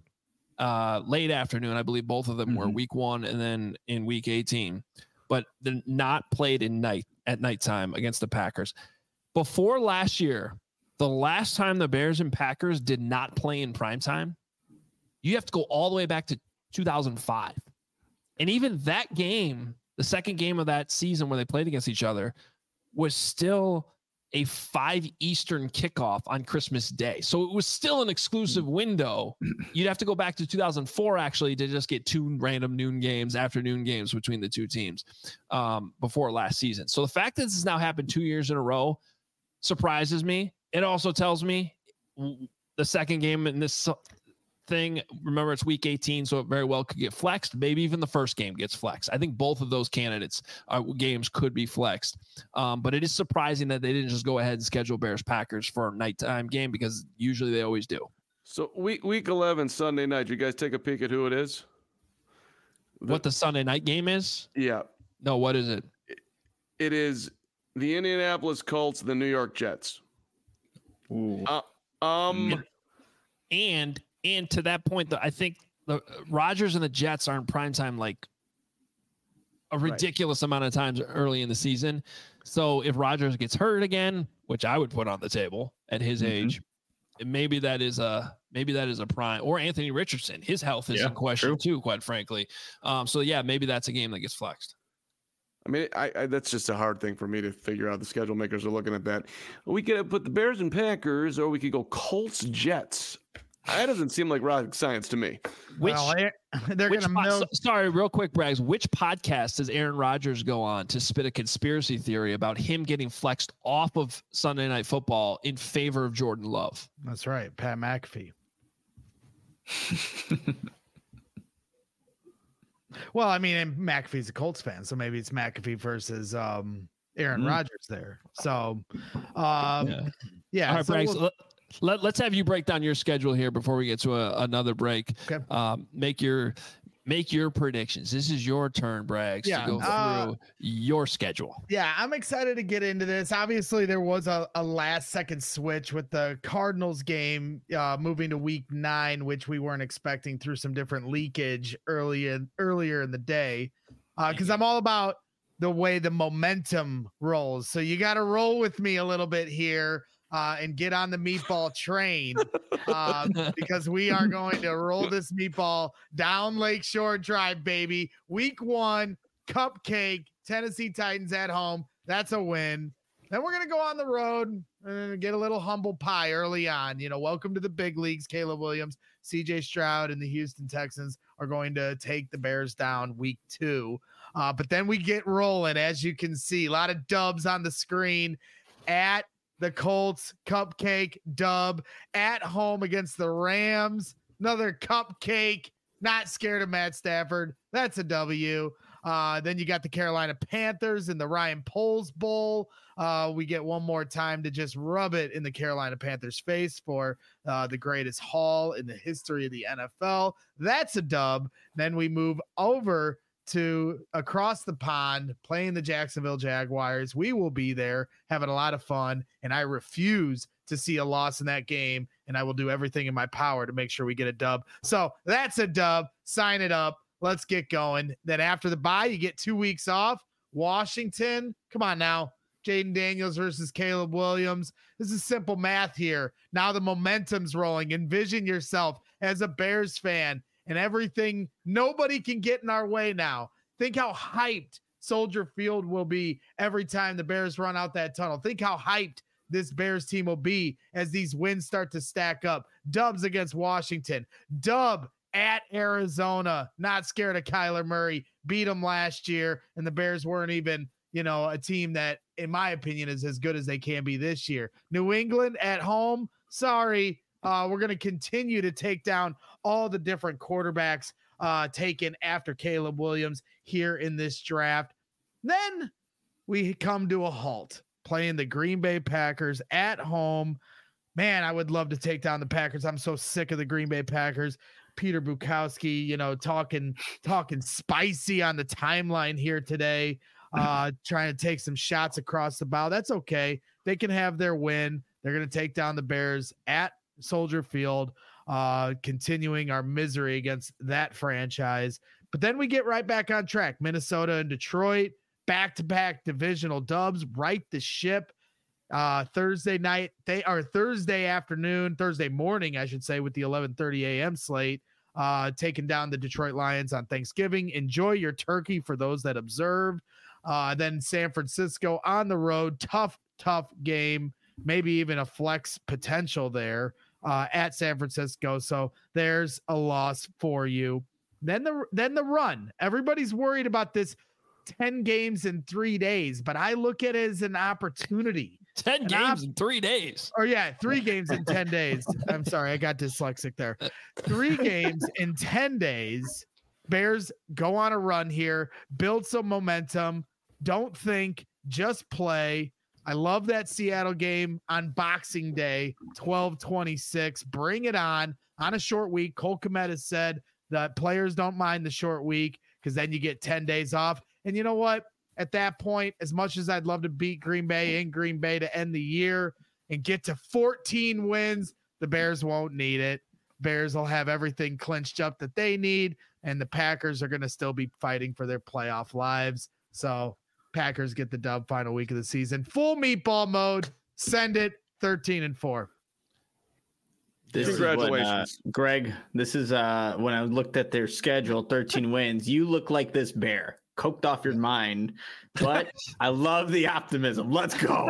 late afternoon. I believe both of them were week 1 and then in week 18, but they're not played at nighttime against the Packers. Before last year, the last time the Bears and Packers did not play in primetime, you have to go all the way back to 2005. And even that game, the 2nd game of that season where they played against each other, was still a 5 Eastern kickoff on Christmas Day. So it was still an exclusive window. You'd have to go back to 2004 actually to just get 2 random afternoon games between the 2 teams before last season. So the fact that this has now happened 2 years in a row surprises me. It also tells me the 2nd game in this thing, remember it's week 18, so it very well could get flexed. Maybe even the 1st game gets flexed. I think both of those games could be flexed. But it is surprising that they didn't just go ahead and schedule Bears-Packers for a nighttime game, because usually they always do. So week 11, Sunday night, you guys take a peek at who it is? What the Sunday night game is? Yeah. No, what is it? It is the Indianapolis Colts, the New York Jets. Ooh. And to that point, I think the Rodgers and the Jets are in primetime like a ridiculous amount of times early in the season. So if Rodgers gets hurt again, which I would put on the table at his age, maybe that is a prime, or Anthony Richardson. His health is in question too, quite frankly. So yeah, maybe that's a game that gets flexed. I mean, I that's just a hard thing for me to figure out. The schedule makers are looking at that. We could put the Bears and Packers, or we could go Colts Jets. That doesn't seem like rocket science to me. Sorry, real quick, Braggs. Which podcast does Aaron Rodgers go on to spit a conspiracy theory about him getting flexed off of Sunday Night Football in favor of Jordan Love? That's right, Pat McAfee. Well, I mean, and McAfee's a Colts fan, so maybe it's McAfee versus Aaron Rodgers there. So, yeah. All right, Braggs. Let's have you break down your schedule here before we get to another break. Okay. make your predictions. This is your turn, Braggs, to go through your schedule. Yeah, I'm excited to get into this. Obviously, there was a last-second switch with the Cardinals game moving to Week 9, which we weren't expecting through some different leakage earlier in the day. Because I'm all about the way the momentum rolls. So you got to roll with me a little bit here. And get on the meatball train because we are going to roll this meatball down Lakeshore Drive, baby. Week 1, cupcake, Tennessee Titans at home. That's a win. Then we're going to go on the road and get a little humble pie early on. Welcome to the big leagues. Caleb Williams, CJ Stroud, and the Houston Texans are going to take the Bears down week 2. But then we get rolling, as you can see. A lot of dubs on the screen at the Colts, cupcake dub, at home against the Rams, another cupcake, not scared of Matt Stafford. That's a W. Then you got the Carolina Panthers in the Ryan Poles Bowl. We get one more time to just rub it in the Carolina Panthers face for the greatest haul in the history of the NFL. That's a dub. Then we move over to across the pond, playing the Jacksonville Jaguars. We will be there having a lot of fun, and I refuse to see a loss in that game, and I will do everything in my power to make sure we get a dub. So that's a dub. Sign it up. Let's get going. Then after the bye, you get 2 weeks off. Washington, come on now. Jaden Daniels versus Caleb Williams. This is simple math here. Now the momentum's rolling. Envision yourself as a Bears fan and everything. Nobody can get in our way now. Think how hyped Soldier Field will be every time the Bears run out that tunnel. Think how hyped this Bears team will be as these wins start to stack up. Dubs against Washington. Dub at Arizona. Not scared of Kyler Murray. Beat them last year, and the Bears weren't even, a team that, in my opinion, is as good as they can be this year. New England at home. Sorry. We're going to continue to take down all the different quarterbacks taken after Caleb Williams here in this draft. Then we come to a halt, playing the Green Bay Packers at home. Man, I would love to take down the Packers. I'm so sick of the Green Bay Packers. Peter Bukowski, talking spicy on the timeline here today, trying to take some shots across the bow. That's okay. They can have their win. They're going to take down the Bears at Soldier Field, continuing our misery against that franchise. But then we get right back on track. Minnesota and Detroit, back-to-back divisional dubs, right the ship. Thursday morning, I should say, with the 11:30 a.m. slate, taking down the Detroit Lions on Thanksgiving. Enjoy your turkey for those that observed. Then San Francisco on the road, tough game, maybe even a flex potential there at San Francisco. So there's a loss for you. Then the run. Everybody's worried about this 10 games in 3 days, but I look at it as an opportunity. 10 games in 3 days. Or 3 games in 10 days. I'm sorry, I got dyslexic there. 3 games in 10 days. Bears go on a run here, build some momentum. Don't think, just play. I love that Seattle game on Boxing Day, 12/26. Bring it on a short week. Cole Kmet has said that players don't mind the short week because then you get 10 days off. And you know what? At that point, as much as I'd love to beat Green Bay in Green Bay to end the year and get to 14 wins, the Bears won't need it. Bears will have everything clinched up that they need, and the Packers are going to still be fighting for their playoff lives. So Packers get the dub final week of the season. Full meatball mode. Send it 13-4. Congratulations, Greg. This is when I looked at their schedule, 13 wins. You look like this bear. Coked off your mind, but I love the optimism. Let's go.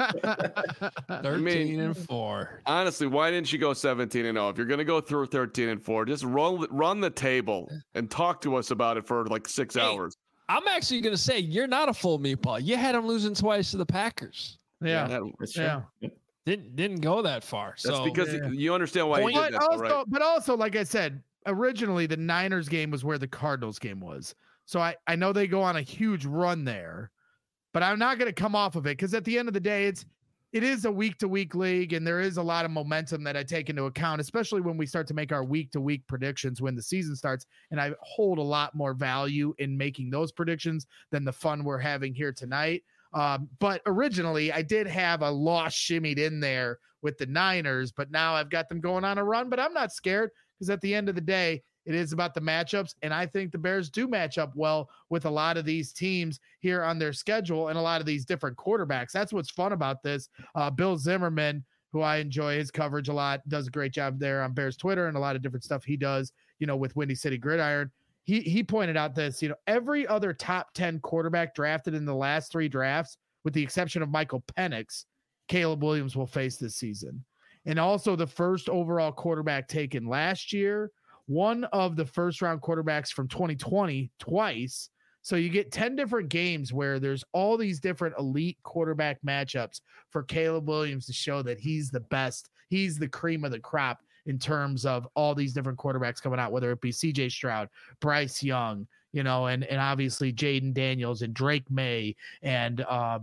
13-4. Honestly, why didn't you go 17-0? If you're going to go through 13-4, just run the table and talk to us about it for like 6 hours. I'm actually going to say you're not a full meatball. You had them losing twice to the Packers. Yeah. Didn't go that far. That's because you understand why. But also, like I said, originally the Niners game was where the Cardinals game was. So I know they go on a huge run there, but I'm not going to come off of it because at the end of the day, it is a week-to-week league, and there is a lot of momentum that I take into account, especially when we start to make our week-to-week predictions when the season starts. And I hold a lot more value in making those predictions than the fun we're having here tonight. But originally, I did have a loss shimmied in there with the Niners, but now I've got them going on a run. But I'm not scared because at the end of the day, it is about the matchups, and I think the Bears do match up well with a lot of these teams here on their schedule and a lot of these different quarterbacks. That's what's fun about this. Bill Zimmerman, who I enjoy his coverage a lot, does a great job there on Bears Twitter and a lot of different stuff he does, with Windy City Gridiron. He pointed out this, every other top 10 quarterback drafted in the last 3 drafts, with the exception of Michael Penix, Caleb Williams will face this season. And also the first overall quarterback taken last year, one of the first round quarterbacks from 2020 twice. So you get 10 different games where there's all these different elite quarterback matchups for Caleb Williams to show that he's the best. He's the cream of the crop in terms of all these different quarterbacks coming out, whether it be CJ Stroud, Bryce Young, and obviously Jaden Daniels and Drake May and,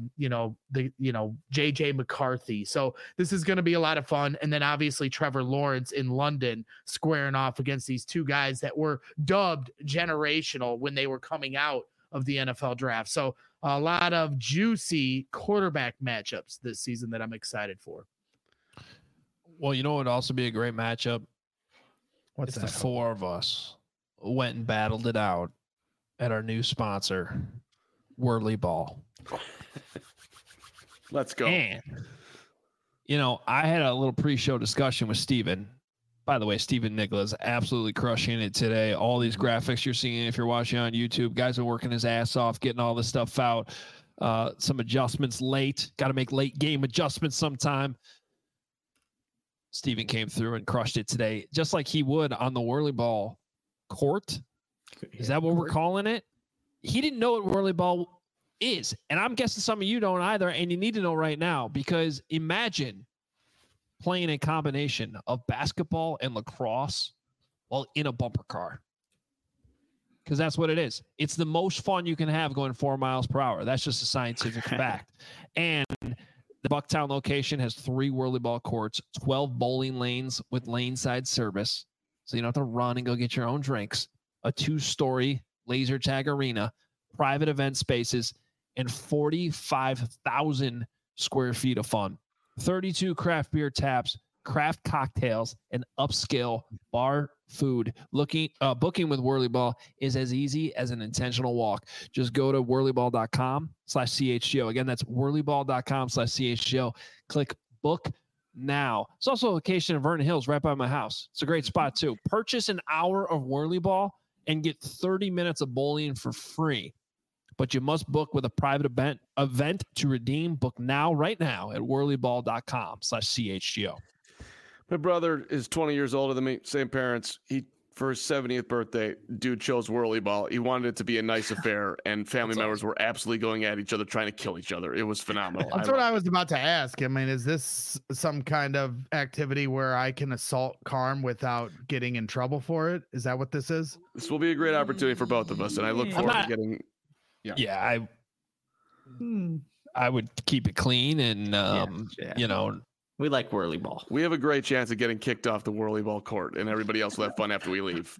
JJ McCarthy. So this is going to be a lot of fun. And then obviously Trevor Lawrence in London squaring off against these 2 guys that were dubbed generational when they were coming out of the NFL draft. So a lot of juicy quarterback matchups this season that I'm excited for. Well, it would also be a great matchup. What's if that? The 4 of us went and battled it out at our new sponsor, Whirly Ball. Let's go. And, I had a little pre-show discussion with Steven. By the way, Steven Nicholas absolutely crushing it today. All these graphics you're seeing, if you're watching on YouTube, guys are working his ass off, getting all this stuff out. Some adjustments late. Got to make late game adjustments sometime. Steven came through and crushed it today, just like he would on the Whirly Ball court. Is that what we're calling it? He didn't know what Whirly Ball is. And I'm guessing some of you don't either. And you need to know right now, because imagine playing a combination of basketball and lacrosse while in a bumper car. Because that's what it is. It's the most fun you can have going 4 miles per hour. That's just a scientific fact. And the Bucktown location has 3 Whirly Ball courts, 12 bowling lanes with lane side service. So you don't have to run and go get your own drinks. A 2-story laser tag arena, private event spaces, and 45,000 square feet of fun. 32 craft beer taps, craft cocktails, and upscale bar food. Booking with Whirly Ball is as easy as an intentional walk. Just go to whirlyball.com/CHGO. Again, that's whirlyball.com/CHGO. Click book now. It's also a location in Vernon Hills right by my house. It's a great spot too. Purchase an hour of Whirly Ball and get 30 minutes of bowling for free. But you must book with a private event to redeem. Book now, right now at whirlyball.com/CHGO. My brother is 20 years older than me, same parents. For his 70th birthday, dude chose Whirly Ball. He wanted it to be a nice affair, and family members were absolutely going at each other, trying to kill each other. It was phenomenal. That's what I was about to ask. I mean, is this some kind of activity where I can assault Carm without getting in trouble for it? Is that what this is? This will be a great opportunity for both of us, and I look forward to getting... I would keep it clean and, we like Whirly Ball. We have a great chance of getting kicked off the Whirly Ball court, and everybody else will have fun after we leave.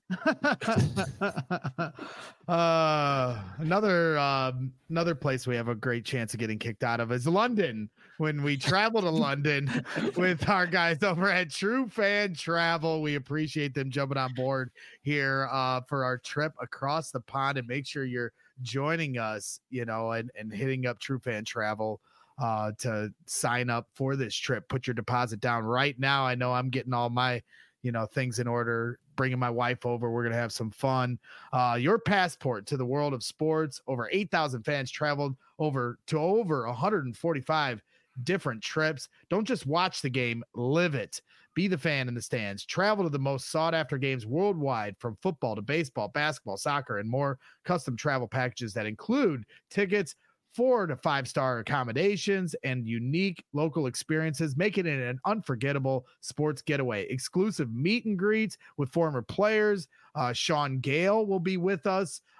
Another place we have a great chance of getting kicked out of is London. When we travel to London with our guys over at True Fan Travel, we appreciate them jumping on board here for our trip across the pond. And make sure you're joining us, and hitting up True Fan Travel to sign up for this trip. Put your deposit down right now. I know I'm getting all my, things in order, bringing my wife over. We're going to have some fun. Your passport to the world of sports. Over 8,000 fans traveled over 145 different trips. Don't just watch the game, live it. Be the fan in the stands. Travel to the most sought after games worldwide, from football to baseball, basketball, soccer, and more. Custom travel packages that include tickets, 4 to 5-star accommodations, and unique local experiences, making it an unforgettable sports getaway. Exclusive meet and greets with former players. Sean Gale will be with us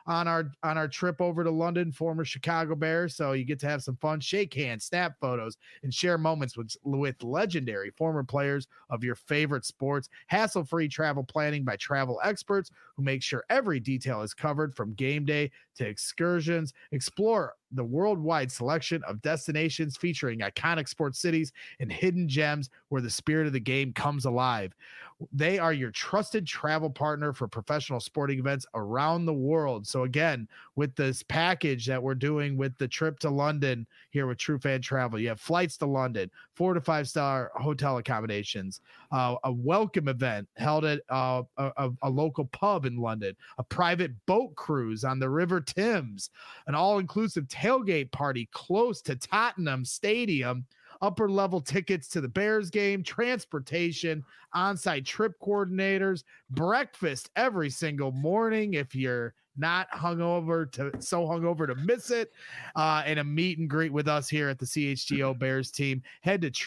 on our trip over to London, former Chicago Bear. So you get to have some fun, shake hands, snap photos, and share moments with legendary former players of your favorite sports. Hassle-free travel planning by travel experts who make sure every detail is covered, from game day to excursions. Explore the worldwide selection of destinations featuring iconic sports cities and hidden gems where the spirit of the game comes alive. They are your trusted travel partner for professional sporting events around the world. So again, with this package that we're doing with the trip to London here with True Fan Travel, you have flights to London, 4 to 5 star hotel accommodations, a welcome event held at a local pub in London, a private boat cruise on the River Thames, an all-inclusive tailgate party close to Tottenham Stadium, upper level tickets to the Bears game, transportation, on-site trip coordinators, breakfast every single morning if you're not hungover to miss it, and a meet and greet with us here at the CHGO Bears team. Head to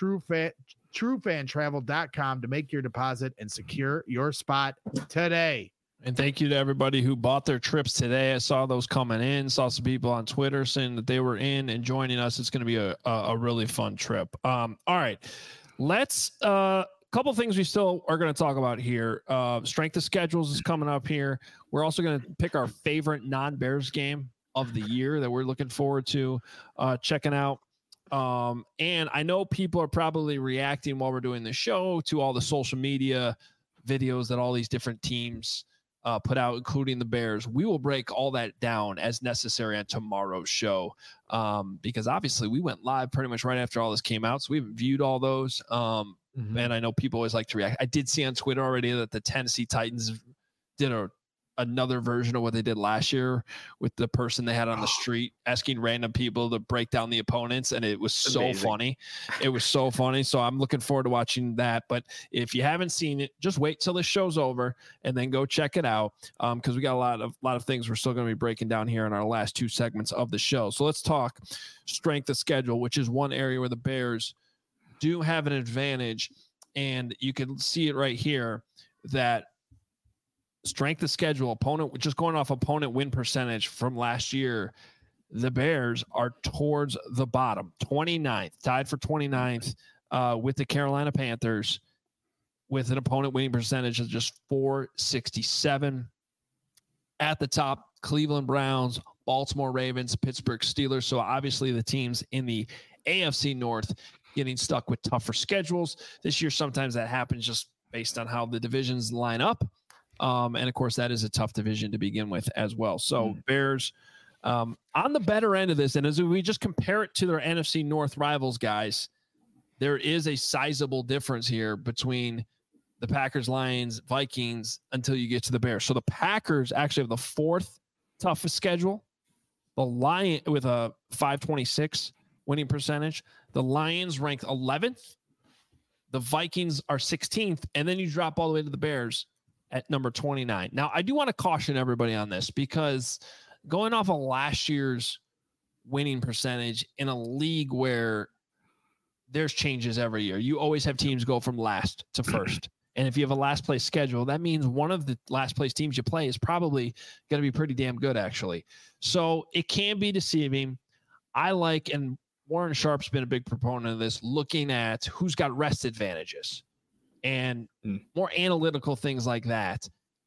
truefantravel.com to make your deposit and secure your spot today. And thank you to everybody who bought their trips today. I saw those coming in, saw some people on Twitter saying that they were in and joining us. It's going to be a really fun trip. All right, let's couple things we still are going to talk about here. Strength of schedules is coming up here. We're also going to pick our favorite non-Bears game of the year that we're looking forward to checking out. And I know people are probably reacting while we're doing the show to all the social media videos that all these different teams put out, including the Bears. We will break all that down as necessary on tomorrow's show, because obviously we went live pretty much right after all this came out, so we haven't viewed all those. And I know people always like to react. I did see on Twitter already that the Tennessee Titans did another version of what they did last year with the person they had on the street asking random people to break down the opponents, and it was so funny. It was so funny. So I'm looking forward to watching that. But if you haven't seen it, just wait till the show's over and then go check it out, because we got a lot of things we're still going to be breaking down here in our last two segments of the show. So let's talk strength of schedule, which is one area where the Bears do have an advantage, and you can see it right here that strength of schedule, opponent, just going off opponent win percentage from last year, the Bears are towards the bottom, 29th, tied for 29th with the Carolina Panthers, with an opponent winning percentage of just .467. At the top, Cleveland Browns, Baltimore Ravens, Pittsburgh Steelers. So obviously the teams in the AFC North getting stuck with tougher schedules this year. Sometimes that happens just based on how the divisions line up. And of course, that is a tough division to begin with as well. So Bears on the better end of this. And as we just compare it to their NFC North rivals, guys, there is a sizable difference here between the Packers, Lions, Vikings until you get to the Bears. So the Packers actually have the fourth toughest schedule. The Lions with a .526 winning percentage. The Lions ranked 11th. The Vikings are 16th. And then you drop all the way to the Bears at number 29. Now, I do want to caution everybody on this, because going off of last year's winning percentage in a league where there's changes every year, you always have teams go from last to first. And if you have a last place schedule, that means one of the last place teams you play is probably going to be pretty damn good, actually. So it can be deceiving. I like, and Warren Sharp's been a big proponent of this, looking at who's got rest advantages and more analytical things like that.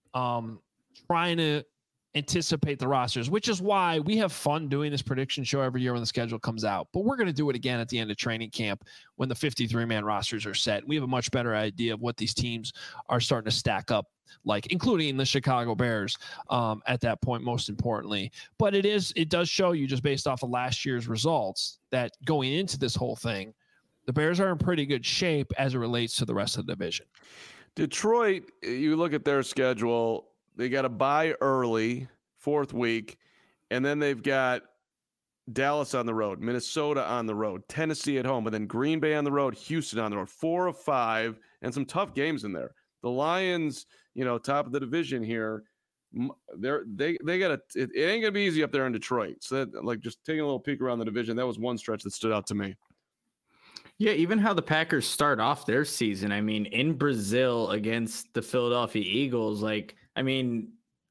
Trying to anticipate the rosters, which is why we have fun doing this prediction show every year when the schedule comes out. But we're going to do it again at the end of training camp when the 53-man rosters are set. We have a much better idea of what these teams are starting to stack up, like, including the Chicago Bears at that point, most importantly. But it does show you, just based off of last year's results, that going into this whole thing, the Bears are in pretty good shape as it relates to the rest of the division. Detroit, you look at their schedule, they got a bye early, fourth week, and then they've got Dallas on the road, Minnesota on the road, Tennessee at home, and then Green Bay on the road, Houston on the road. 4 of 5, and some tough games in there. The Lions, top of the division here, they got it ain't gonna be easy up there in Detroit. So that, just taking a little peek around the division, that was one stretch that stood out to me. Yeah, even how the Packers start off their season. I mean, in Brazil against the Philadelphia Eagles,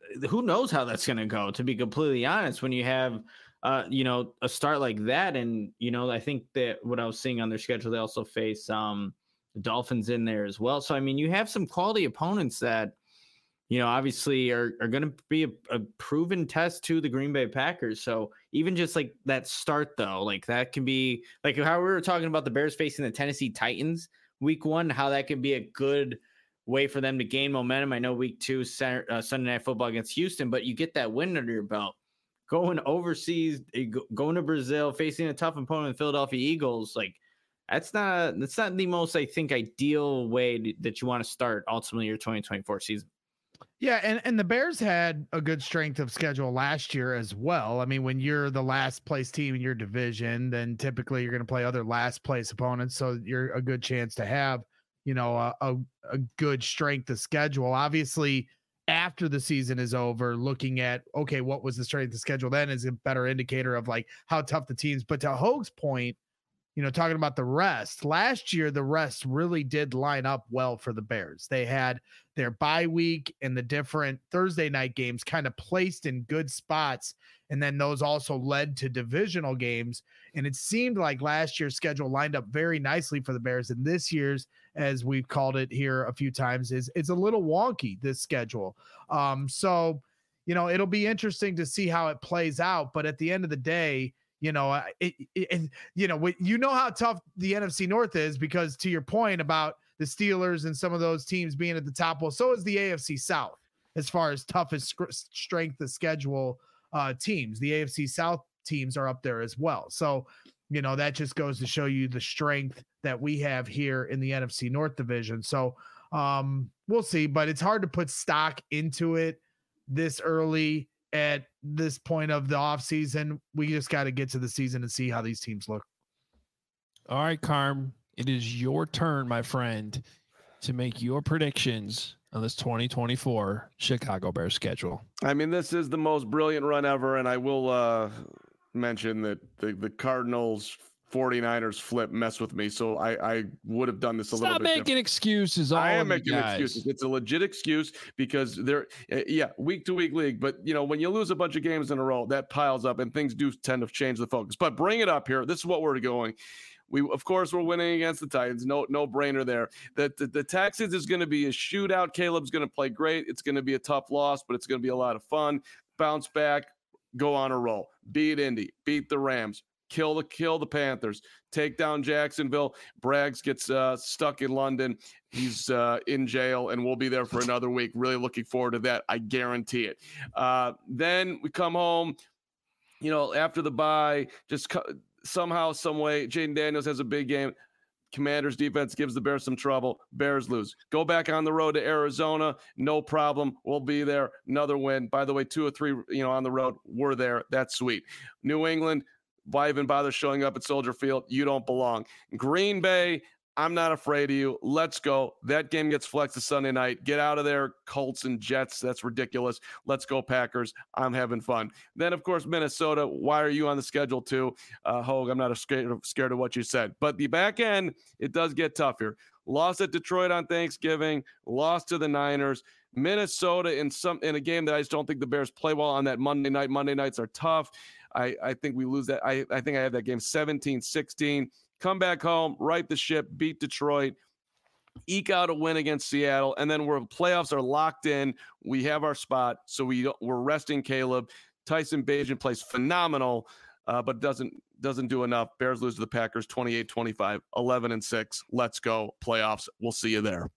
who knows how that's going to go, to be completely honest, when you have, a start like that. And, I think that what I was seeing on their schedule, they also face the Dolphins in there as well. So, I mean, you have some quality opponents that, obviously are going to be a proven test to the Green Bay Packers. So even just like that start, though, like that can be like how we were talking about the Bears facing the Tennessee Titans week 1, how that can be a good way for them to gain momentum. I know week 2, Sunday Night Football against Houston, but you get that win under your belt. Going overseas, going to Brazil, facing a tough opponent, Philadelphia Eagles, like that's not the most, I think, ideal way that you want to start ultimately your 2024 season. Yeah, and the Bears had a good strength of schedule last year as well. I mean, when you're the last place team in your division, then typically you're going to play other last place opponents, so you're a good chance to have, a good strength of schedule. Obviously, after the season is over, looking at, okay, what was the strength of schedule then is a better indicator of like how tough the teams. But to Hoag's point, talking about the rest, last year, the rest really did line up well for the Bears. They had their bye week and the different Thursday night games kind of placed in good spots. And then those also led to divisional games. And it seemed like last year's schedule lined up very nicely for the Bears. And this year's, as we've called it here a few times, it's a little wonky, this schedule. So, it'll be interesting to see how it plays out. But at the end of the day, you know how tough the NFC North is, because to your point about the Steelers and some of those teams being at the top, well, so is the AFC South as far as toughest strength of schedule teams. The AFC South teams are up there as well. So, that just goes to show you the strength that we have here in the NFC North division. So we'll see, but it's hard to put stock into it this early. At this point of the offseason, we just got to get to the season and see how these teams look. All right, Carm, it is your turn, my friend, to make your predictions on this 2024 Chicago Bears schedule. I mean, this is the most brilliant run ever, and I will mention that the Cardinals 49ers flip mess with me, so I would have done this a little bit. Stop making excuses. I am making excuses. It's a legit excuse because they're week to week league. But when you lose a bunch of games in a row, that piles up and things do tend to change the focus. But bring it up here. This is what we're going. Of course, we're winning against the Titans. No brainer there. The Texans is going to be a shootout. Caleb's going to play great. It's going to be a tough loss, but it's going to be a lot of fun. Bounce back, go on a roll. Beat Indy, beat the Rams. Kill the Panthers, take down Jacksonville. Braggs gets stuck in London. He's in jail, and we'll be there for another week. Really looking forward to that. I guarantee it. Then we come home, after the bye, somehow, some way, Jaden Daniels has a big game. Commanders defense gives the Bears some trouble. Bears lose. Go back on the road to Arizona. No problem. We'll be there. Another win. By the way, 2 or 3, on the road. We're there. That's sweet. New England. Why even bother showing up at Soldier Field? You don't belong. Green Bay, I'm not afraid of you. Let's go. That game gets flexed to Sunday night. Get out of there, Colts and Jets. That's ridiculous. Let's go, Packers. I'm having fun. Then, of course, Minnesota. Why are you on the schedule too? Hoag, I'm not scared of what you said. But the back end, it does get tough here. Lost at Detroit on Thanksgiving. Lost to the Niners. Minnesota in a game that I just don't think the Bears play well on that Monday night. Monday nights are tough. I think we lose that. I think I have that game 17-16. Come back home, right the ship, beat Detroit, eke out a win against Seattle, and then playoffs are locked in. We have our spot, so we're resting Caleb. Tyson Bagent plays phenomenal, but doesn't do enough. Bears lose to the Packers 28-25, 11-6. Let's go playoffs. We'll see you there.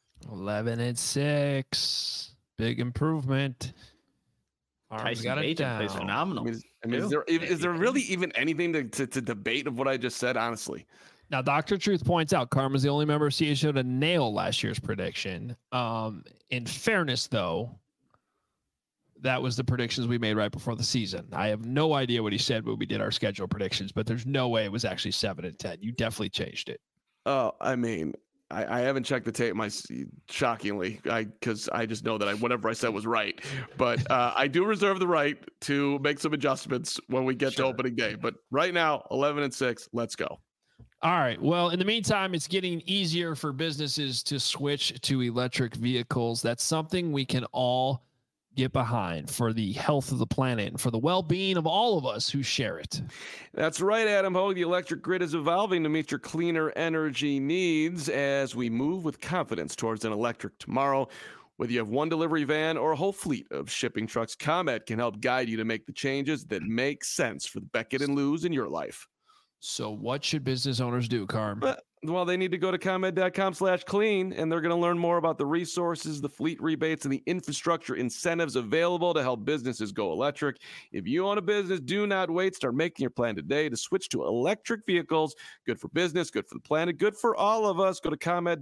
11-6, big improvement. Tyson Bagent plays phenomenal. I mean, is there really even anything to debate of what I just said? Honestly, now Dr. Truth points out Karma's the only member of CHO to nail last year's prediction. In fairness, though, that was the predictions we made right before the season. I have no idea what he said when we did our schedule predictions, but there's no way it was actually 7-10. You definitely changed it. Oh, I mean, I haven't checked the tape, shockingly, because I just know that whatever I said was right. But I do reserve the right to make some adjustments when we get to opening day. But right now, 11-6, let's go. All right. Well, in the meantime, it's getting easier for businesses to switch to electric vehicles. That's something we can all get behind for the health of the planet and for the well-being of all of us who share it. That's right, Adam Hogue. The electric grid is evolving to meet your cleaner energy needs as we move with confidence towards an electric tomorrow. Whether you have one delivery van or a whole fleet of shipping trucks, ComEd can help guide you to make the changes that make sense for the Beckett and Lewis in your life. So what should business owners do, Carm? Well, they need to go to ComEd.com/clean, and they're going to learn more about the resources, the fleet rebates, and the infrastructure incentives available to help businesses go electric. If you own a business, do not wait. Start making your plan today to switch to electric vehicles. Good for business, good for the planet, good for all of us. Go to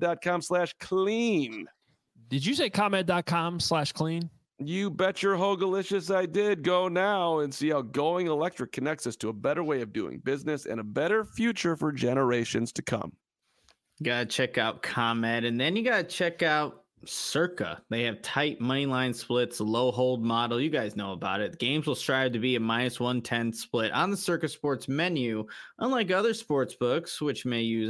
ComEd.com/clean. Did you say ComEd.com/clean? You bet your Hogalicious I did. Go now and see how going electric connects us to a better way of doing business and a better future for generations to come. Gotta check out ComEd, and then you gotta check out Circa. They have tight money line splits, low hold model. You guys know about it. Games will strive to be a -110 split on the Circa Sports menu, unlike other sports books, which may use a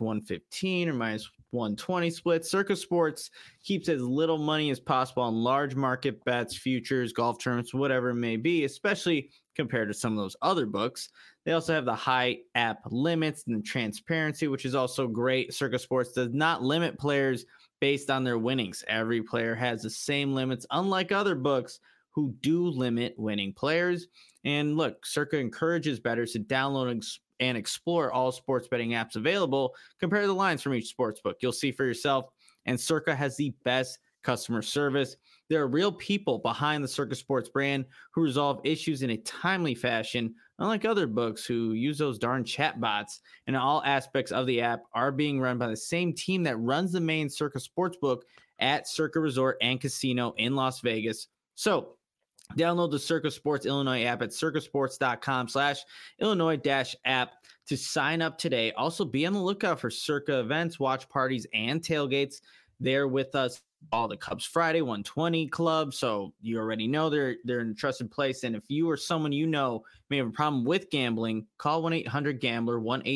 -115 or -120 split. Circa Sports keeps as little money as possible on large market bets, futures, golf tournaments, whatever it may be, especially compared to some of those other books. They also have the high app limits and transparency, which is also great. Circa Sports does not limit players based on their winnings. Every player has the same limits, unlike other books who do limit winning players. And look, Circa encourages bettors to download and explore all sports betting apps available. Compare the lines from each sports book. You'll see for yourself. And Circa has the best customer service. There are real people behind the Circa Sports brand who resolve issues in a timely fashion, unlike other books who use those darn chatbots. And all aspects of the app are being run by the same team that runs the main Circa Sportsbook at Circa Resort and Casino in Las Vegas. So download the Circa Sports Illinois app at circasports.com/Illinois-app to sign up today. Also, be on the lookout for Circa events, watch parties, and tailgates. They're with us all the Cubs Friday 120 Club. So you already know they're in a trusted place. And if you or someone you know may have a problem with gambling, call 1-800-GAMBLER,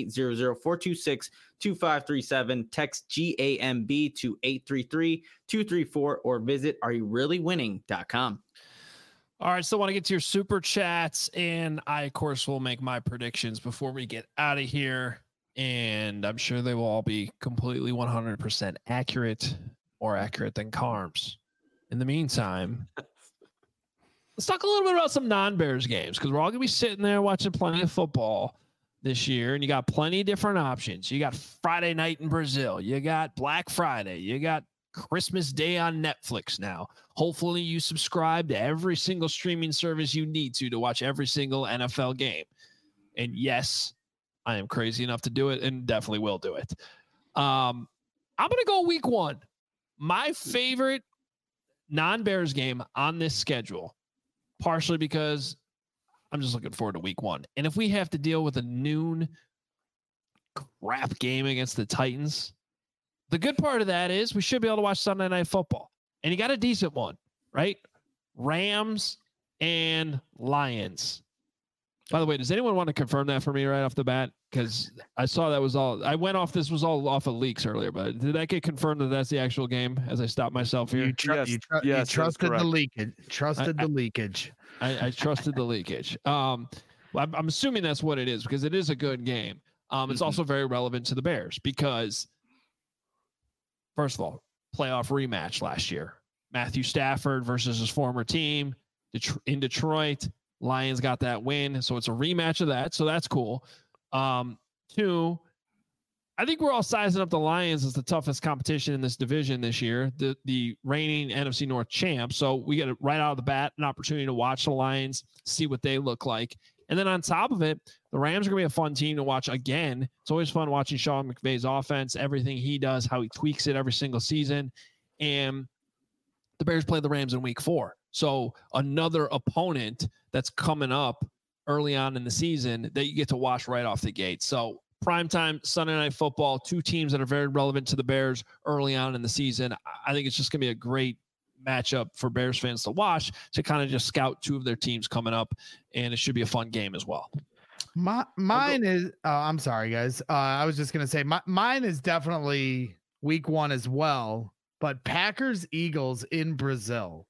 1-800-426-2537. Text GAMB to 833-234 or visit areyourreallywinning.com. All right, so I want to get to your super chats, and I, of course, will make my predictions before we get out of here, and I'm sure they will all be completely 100% accurate, more accurate than Carm's. In the meantime, let's talk a little bit about some non-Bears games, because we're all going to be sitting there watching plenty of football this year, and you got plenty of different options. You got Friday night in Brazil. You got Black Friday. You got Christmas Day on Netflix now. Hopefully you subscribe to every single streaming service you need to watch every single NFL game. And yes, I am crazy enough to do it and definitely will do it. I'm going to go week one. My favorite non-Bears game on this schedule, partially because I'm just looking forward to week one. And if we have to deal with a noon crap game against the Titans, the good part of that is we should be able to watch Sunday Night Football. And you got a decent one, right? Rams and Lions. By the way, does anyone want to confirm that for me right off the bat? Because I saw that was all. I went off. This was all off of leaks earlier, but did that get confirmed that that's the actual game? As I stopped myself here, You trusted the leakage. Trusted the leakage. I trusted the leakage. I'm assuming that's what it is because it is a good game. It's also very relevant to the Bears because, first of all, playoff rematch last year. Matthew Stafford versus his former team in Detroit. Lions got that win, so it's a rematch of that. So that's cool. Two, I think we're all sizing up the Lions as the toughest competition in this division this year, the reigning NFC North champ. So we get it right out of the bat, an opportunity to watch the Lions, see what they look like. And then on top of it, the Rams are going to be a fun team to watch again. It's always fun watching Sean McVay's offense, everything he does, how he tweaks it every single season. And the Bears play the Rams in week 4. So another opponent that's coming up early on in the season that you get to watch right off the gate. So primetime Sunday Night Football, two teams that are very relevant to the Bears early on in the season. I think it's just going to be a great matchup for Bears fans to watch to kind of just scout two of their teams coming up, and it should be a fun game as well. Mine is I'm sorry guys, I was just gonna say mine is definitely week 1 as well, but Packers Eagles in Brazil.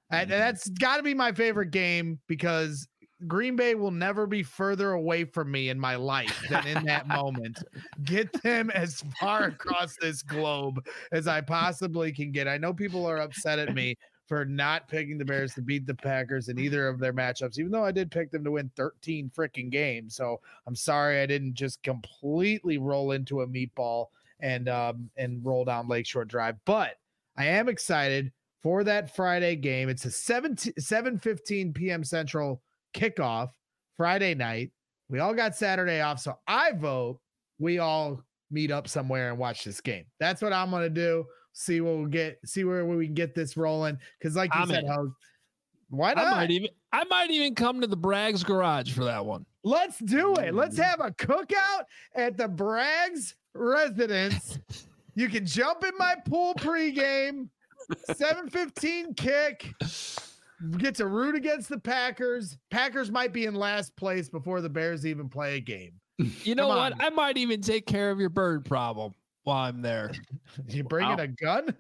That's got to be my favorite game because Green Bay will never be further away from me in my life than in that moment. Get them as far across this globe as I possibly can get. I know people are upset at me for not picking the Bears to beat the Packers in either of their matchups, even though I did pick them to win 13 freaking games. So I'm sorry I didn't just completely roll into a meatball and roll down Lakeshore Drive. But I am excited for that Friday game. It's a 7:15 p.m. Central kickoff Friday night. We all got Saturday off, so I vote we all meet up somewhere and watch this game. That's what I'm gonna do. See what we'll get. See where we can get this rolling. Because, like you said, why not? I might even come to the Braggs garage for that one. Let's do it. Let's have a cookout at the Braggs residence. You can jump in my pool pregame. 7:15 kick. Get to root against the Packers. Packers might be in last place before the Bears even play a game. You know what? I might even take care of your bird problem while I'm there. You bringing a gun?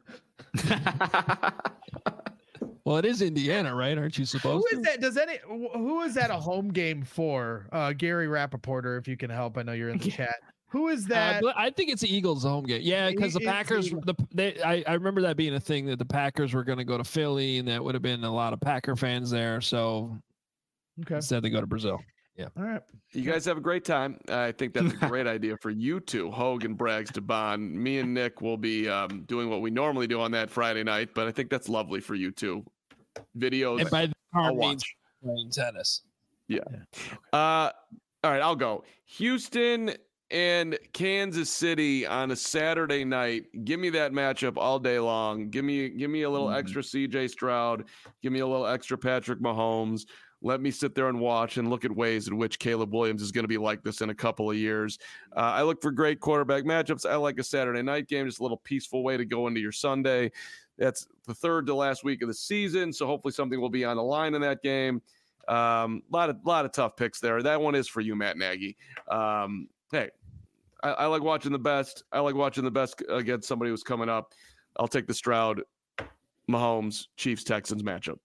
Well, it is Indiana, right? Aren't you supposed to? Who is that? Who is that a home game for? Gary Rappaporter, if you can help. I know you're in the chat. Who is that? I think it's the Eagles' home game. Yeah, because the Packers. I remember that being a thing that the Packers were going to go to Philly, and that would have been a lot of Packer fans there. So instead they go to Brazil. Yeah. All right. You guys have a great time. I think that's a great idea for you two, Hogue and Braggs, to bond. Me and Nick will be doing what we normally do on that Friday night, but I think that's lovely for you two. Videos. And by the car means playing tennis. Yeah. All right, I'll go. Houston and Kansas City on a Saturday night. Give me that matchup all day long. Give me a little extra CJ Stroud. Give me a little extra Patrick Mahomes. Let me sit there and watch and look at ways in which Caleb Williams is going to be like this in a couple of years. I look for great quarterback matchups. I like a Saturday night game, just a little peaceful way to go into your Sunday. That's the third to last week of the season, so hopefully something will be on the line in that game. Lot of tough picks there. That one is for you, Matt Nagy. Hey, I like watching the best. I like watching the best against somebody who's coming up. I'll take the Stroud, Mahomes, Chiefs, Texans matchup.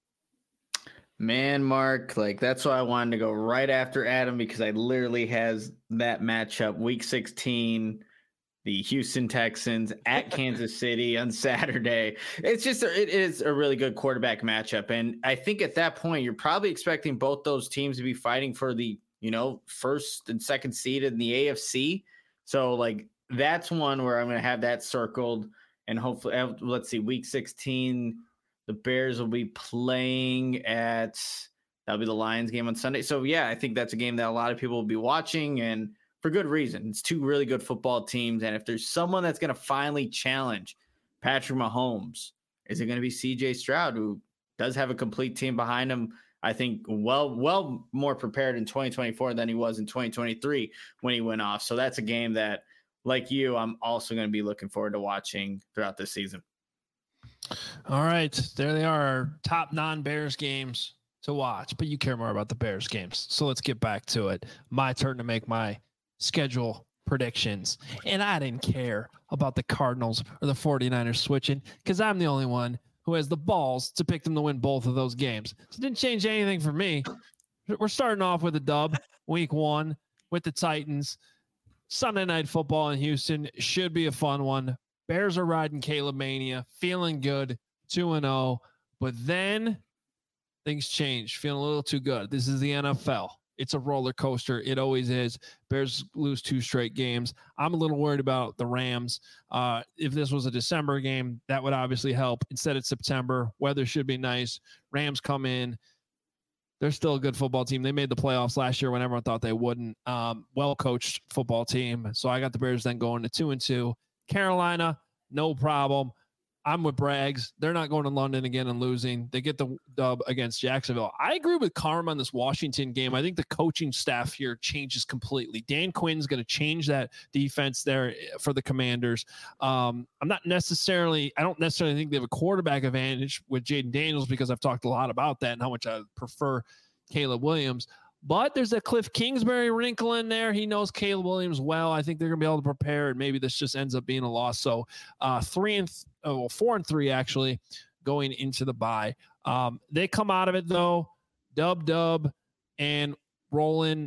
Man, Mark, that's why I wanted to go right after Adam, because I literally has that matchup week 16, the Houston Texans at Kansas City on Saturday. It is a really good quarterback matchup. And I think at that point, you're probably expecting both those teams to be fighting for the, first and second seed in the AFC. So that's one where I'm going to have that circled, and hopefully, let's see, week 16, the Bears will be playing that'll be the Lions game on Sunday. So yeah, I think that's a game that a lot of people will be watching, and for good reason. It's two really good football teams. And if there's someone that's going to finally challenge Patrick Mahomes, is it going to be CJ Stroud, who does have a complete team behind him? I think well more prepared in 2024 than he was in 2023 when he went off. So that's a game that, like you, I'm also going to be looking forward to watching throughout this season. All right, there they are, our top non-Bears games to watch, but you care more about the Bears games. So let's get back to it. My turn to make my schedule predictions. And I didn't care about the Cardinals or the 49ers switching, because I'm the only one who has the balls to pick them to win both of those games. So it didn't change anything for me. We're starting off with a dub week 1 with the Titans. Sunday Night Football in Houston should be a fun one. Bears are riding Caleb Mania, feeling good, 2-0, but then things change, feeling a little too good. This is the NFL. It's a roller coaster. It always is. Bears lose 2 straight games. I'm a little worried about the Rams. If this was a December game, that would obviously help. Instead, it's September. Weather should be nice. Rams come in. They're still a good football team. They made the playoffs last year when everyone thought they wouldn't. Well-coached football team. So I got the Bears then going to 2-2. Carolina, no problem. I'm with Braggs. They're not going to London again and losing. They get the dub against Jacksonville. I agree with Carm on this Washington game. I think the coaching staff here changes completely. Dan Quinn's going to change that defense there for the Commanders. I don't necessarily think they have a quarterback advantage with Jaden Daniels, because I've talked a lot about that and how much I prefer Caleb Williams. But there's a Cliff Kingsbury wrinkle in there. He knows Caleb Williams well. I think they're going to be able to prepare, and maybe this just ends up being a loss. So 4-3 actually. going into the bye. They come out of it though, dub, and rolling.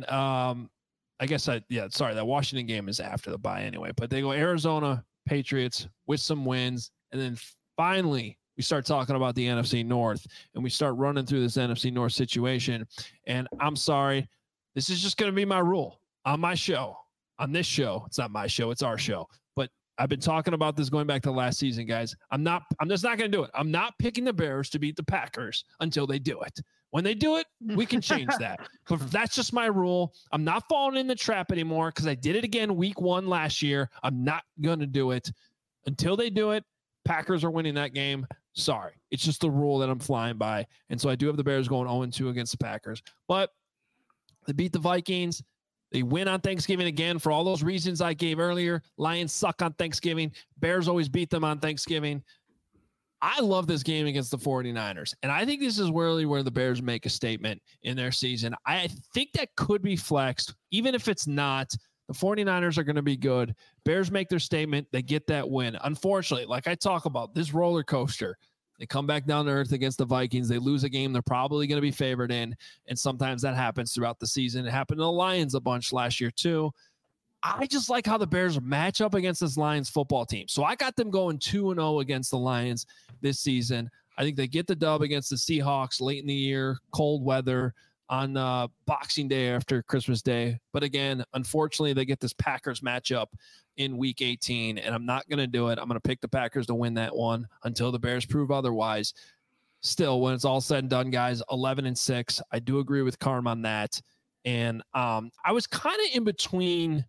That Washington game is after the bye anyway, but they go Arizona, Patriots with some wins. And then finally we start talking about the NFC North and we start running through this NFC North situation. And I'm sorry, this is just going to be my rule on my show, on this show. It's not my show, it's our show. But I've been talking about this going back to last season, guys. I'm just not going to do it. I'm not picking the Bears to beat the Packers until they do it. When they do it, we can change that. But that's just my rule. I'm not falling in the trap anymore because I did it again week 1 last year. I'm not going to do it until they do it. Packers are winning that game. Sorry. It's just the rule that I'm flying by. And so I do have the Bears going 0-2 against the Packers. But they beat the Vikings. They win on Thanksgiving again for all those reasons I gave earlier. Lions suck on Thanksgiving. Bears always beat them on Thanksgiving. I love this game against the 49ers. And I think this is really where the Bears make a statement in their season. I think that could be flexed. Even if it's not, the 49ers are going to be good. Bears make their statement. They get that win. Unfortunately, like I talk about, this roller coaster, they come back down to earth against the Vikings. They lose a game they're probably going to be favored in. And sometimes that happens throughout the season. It happened to the Lions a bunch last year too. I just like how the Bears match up against this Lions football team. So I got them going 2-0 against the Lions this season. I think they get the dub against the Seahawks late in the year, cold weather on Boxing Day after Christmas Day. But again, unfortunately, they get this Packers matchup in week 18, and I'm not going to do it. I'm going to pick the Packers to win that one until the Bears prove otherwise. Still, when it's all said and done, guys, 11-6. I do agree with Carm on that. And I was kind of in between.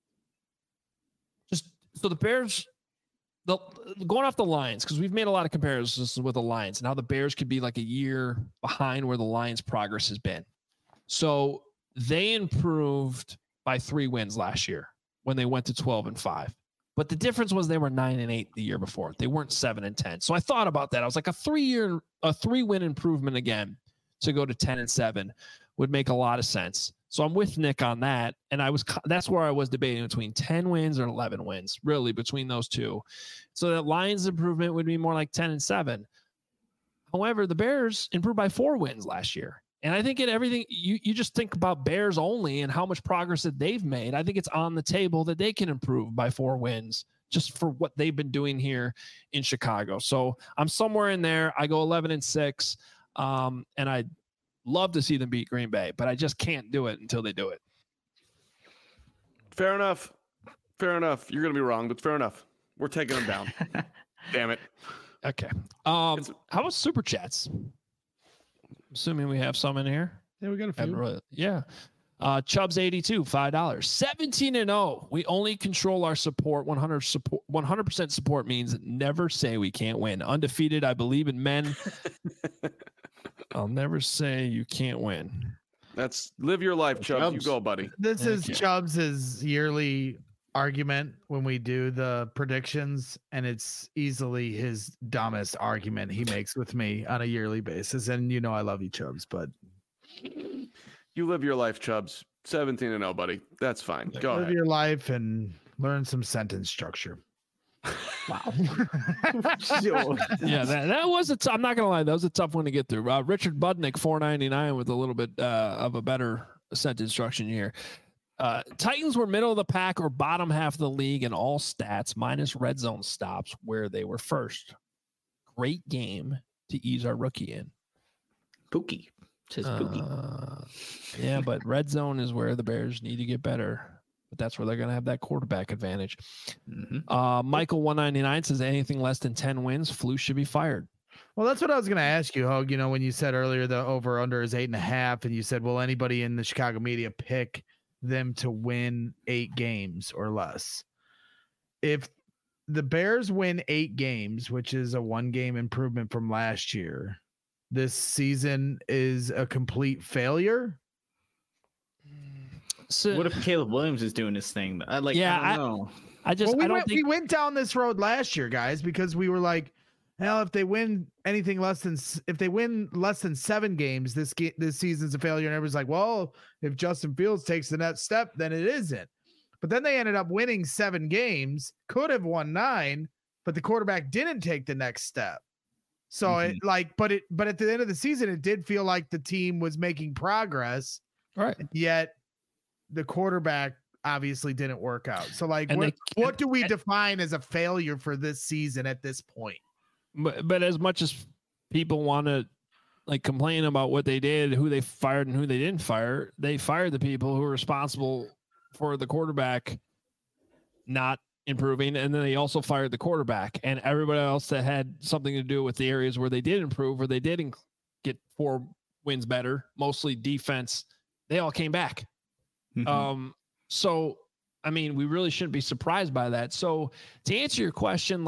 So the Bears, going off the Lions, because we've made a lot of comparisons with the Lions and how the Bears could be like a year behind where the Lions' progress has been. So they improved by 3 wins last year when they went to 12-5. But the difference was they were 9-8 the year before. They weren't 7-10. So I thought about that. I was like, a 3-win improvement again to go to 10-7 would make a lot of sense. So I'm with Nick on that. And that's where I was debating between 10 wins or 11 wins, really between those two. So that Lions improvement would be more like 10-7. However, the Bears improved by 4 wins last year. And I think in everything, you just think about Bears only and how much progress that they've made. I think it's on the table that they can improve by 4 wins just for what they've been doing here in Chicago. So I'm somewhere in there. I go 11-6. And I'd love to see them beat Green Bay, but I just can't do it until they do it. Fair enough. You're going to be wrong, but fair enough. We're taking them down. Damn it. Okay. How about super chats? Assuming we have some in here. Yeah, we got a few. Yeah. Chubbs 82, $5. 17-0. We only control our support. 100% support means never say we can't win. Undefeated. I believe in men. I'll never say you can't win. That's live your life, Chubbs. You go, buddy. This is Chubbs' yearly argument when we do the predictions, and it's easily his dumbest argument he makes with me on a yearly basis. And you know I love you, Chubbs, but you live your life, Chubbs. 17-0, buddy. That's fine. Go ahead. Live your life and learn some sentence structure. Wow. Yeah, that was I'm not gonna lie, that was a tough one to get through. Richard Budnick, $4.99 with a little bit of a better sentence structure here. Titans were middle of the pack or bottom half of the league in all stats, minus red zone stops, where they were first. Great game to ease our rookie in. Pookie. Says Pookie. Yeah, but red zone is where the Bears need to get better. But that's where they're going to have that quarterback advantage. Mm-hmm. Michael 199 says anything less than 10 wins, Flus should be fired. Well, that's what I was going to ask you, Hogue. You know, when you said earlier the over under is 8.5, and you said, will anybody in the Chicago media pick them to win 8 games or less? If the Bears win 8 games, which is a 1-game improvement from last year, this season is a complete failure. So, what if Caleb Williams is doing this thing? I don't know. We went down this road last year, guys, because we were like, hell, if they win less than 7 games, this season's a failure. And everyone's like, well, if Justin Fields takes the next step, then it isn't. But then they ended up winning 7 games, could have won 9, but the quarterback didn't take the next step. So it but at the end of the season, it did feel like the team was making progress. Right. Yet the quarterback obviously didn't work out. So what do we define as a failure for this season at this point? But as much as people want to complain about what they did, who they fired and who they didn't fire, they fired the people who were responsible for the quarterback not improving, and then they also fired the quarterback, and everybody else that had something to do with the areas where they did improve, where they did get 4 wins better, mostly defense, they all came back. So I mean, we really shouldn't be surprised by that. So to answer your question,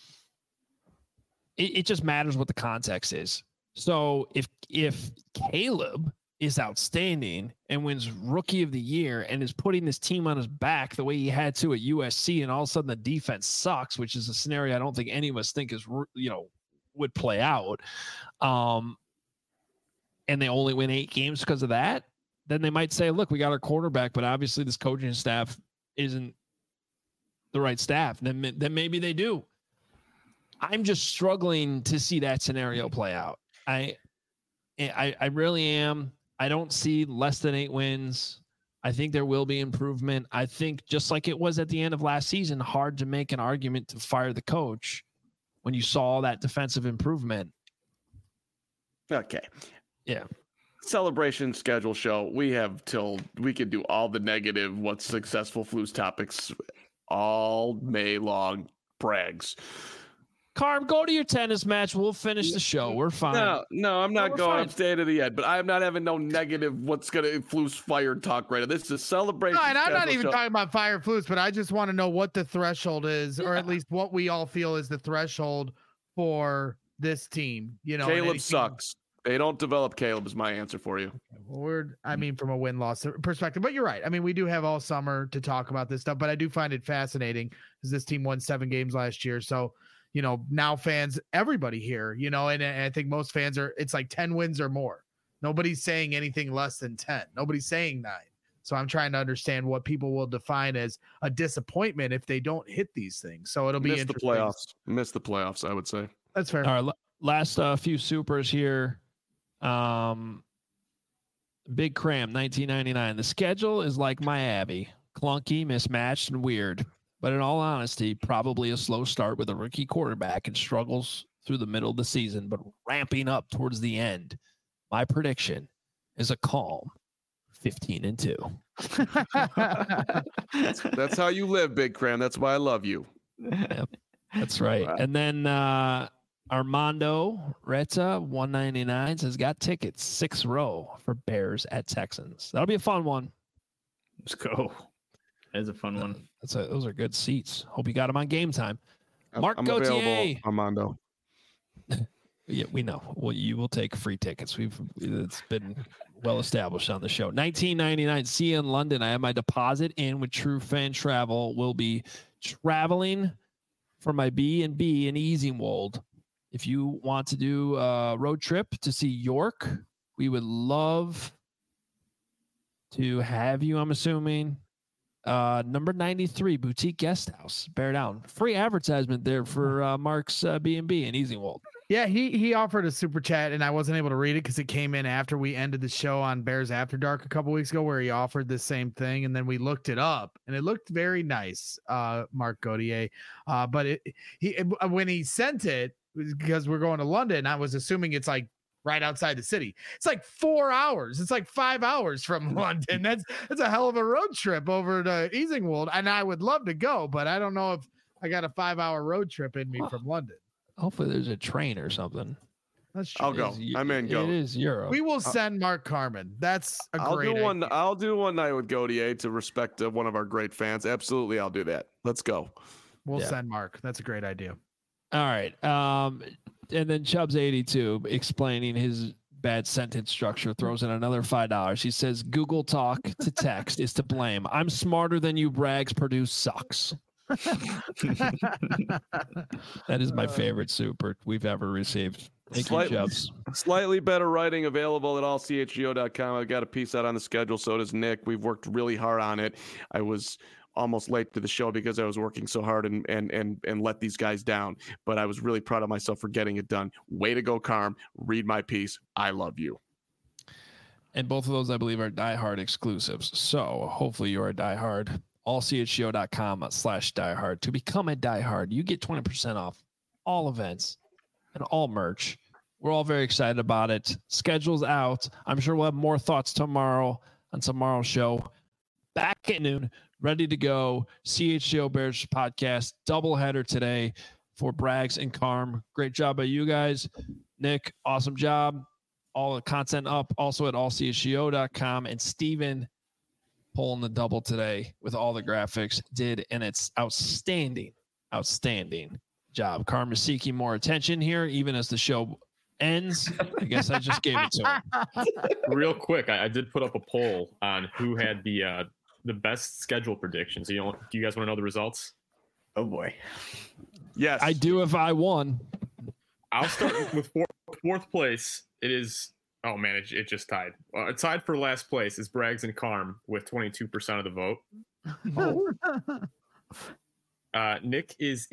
it just matters what the context is. So if Caleb is outstanding and wins Rookie of the Year and is putting this team on his back the way he had to at USC, and all of a sudden the defense sucks, which is a scenario I don't think any of us think is, would play out. And they only win 8 games because of that, then they might say, look, we got our quarterback, but obviously this coaching staff isn't the right staff. Then maybe they do. I'm just struggling to see that scenario play out. I really am. I don't see less than 8 wins. I think there will be improvement. I think just like it was at the end of last season, hard to make an argument to fire the coach when you saw that defensive improvement. Okay. Yeah. Celebration schedule show. We have till we could do all the negative, what's successful Flues topics all May long. Brags. Carm, go to your tennis match. We'll finish the show. We're fine. No, I'm not going. Fine. I'm staying to the end, but I'm not having no negative what's going to Flues fired talk right now. This is a celebration. No, and I'm not even talking about fire Flues, but I just want to know what the threshold is, or at least what we all feel is the threshold for this team. Caleb sucks. They don't develop Caleb is my answer for you. Well, from a win-loss perspective, but you're right. I mean, we do have all summer to talk about this stuff, but I do find it fascinating because this team won 7 games last year. So, now fans, everybody here, and I think most fans it's like 10 wins or more. Nobody's saying anything less than 10. Nobody's saying 9. So I'm trying to understand what people will define as a disappointment if they don't hit these things. So it'll be interesting. Miss the playoffs, I would say. That's fair. All right, last few supers here. Big Cram, 1999. The schedule is like my Abby, clunky, mismatched, and weird. But in all honesty, probably a slow start with a rookie quarterback and struggles through the middle of the season, but ramping up towards the end. My prediction is a calm 15-2. That's how you live, Big Cram. That's why I love you. Yep, that's right. And then Armando Retta, 199, says got tickets 6th row for Bears at Texans. That'll be a fun one. Let's go. That's a fun one. Those are good seats. Hope you got them on Game Time. Mark I'm Gauthier. available, Armando. Yeah, we know. Well, you will take free tickets. It's been well established on the show. 1999. See you in London. I have my deposit in with True Fan Travel. We'll be traveling for my B&B in Easingwold. If you want to do a road trip to see York, we would love to have you. I'm assuming. Number 93, Boutique Guest House, Bear Down. Free advertisement there for Mark's B&B in Easingwold. Yeah, he offered a super chat, and I wasn't able to read it because it came in after we ended the show on Bears After Dark a couple weeks ago, where he offered the same thing, and then we looked it up, and it looked very nice, Mark Gauthier. But when he sent it, because we're going to London, I was assuming it's like right outside the city. It's like 4 hours. It's like 5 hours from London. That's a hell of a road trip over to Easingwold, and I would love to go, but I don't know if I got a 5-hour road trip in me from London. Hopefully there's a train or something. That's true. I'll go. I'm in. Go. It is Europe. We will send Mark Carmen. That's a great idea. I'll do one night with Gauthier to respect one of our great fans. Absolutely, I'll do that. Let's go. We'll send Mark. That's a great idea. All right. And then Chubbs 82 explaining his bad sentence structure throws in another $5. He says Google Talk to text is to blame. I'm smarter than you. Brags produce sucks. That is my favorite super we've ever received. Thank you, Chubbs. Slightly better writing available at allchgo.com. I've got a piece out on the schedule. So does Nick. We've worked really hard on it. I was almost late to the show because I was working so hard and let these guys down. But I was really proud of myself for getting it done. Way to go, Carm. Read my piece. I love you. And both of those, I believe, are diehard exclusives. So hopefully you're a diehard. allchgo.com/diehard. To become a diehard, you get 20% off all events and all merch. We're all very excited about it. Schedule's out. I'm sure we'll have more thoughts tomorrow on tomorrow's show. Back at noon, ready to go. CHGO Bears podcast doubleheader today for Braggs and Carm. Great job by you guys. Nick, awesome job. All the content up also at allchgo.com. And Steven pulling the double today with all the graphics did, and it's outstanding job. Carm is seeking more attention here, even as the show ends. I guess I just gave it to him. Real quick, I did put up a poll on who had the best schedule predictions. Do you guys want to know the results? Oh boy. Yes, I do if I won. I'll start with fourth place. It is, oh man, it just tied. Tied for last place is Braggs and Carm with 22% of the vote. Nick is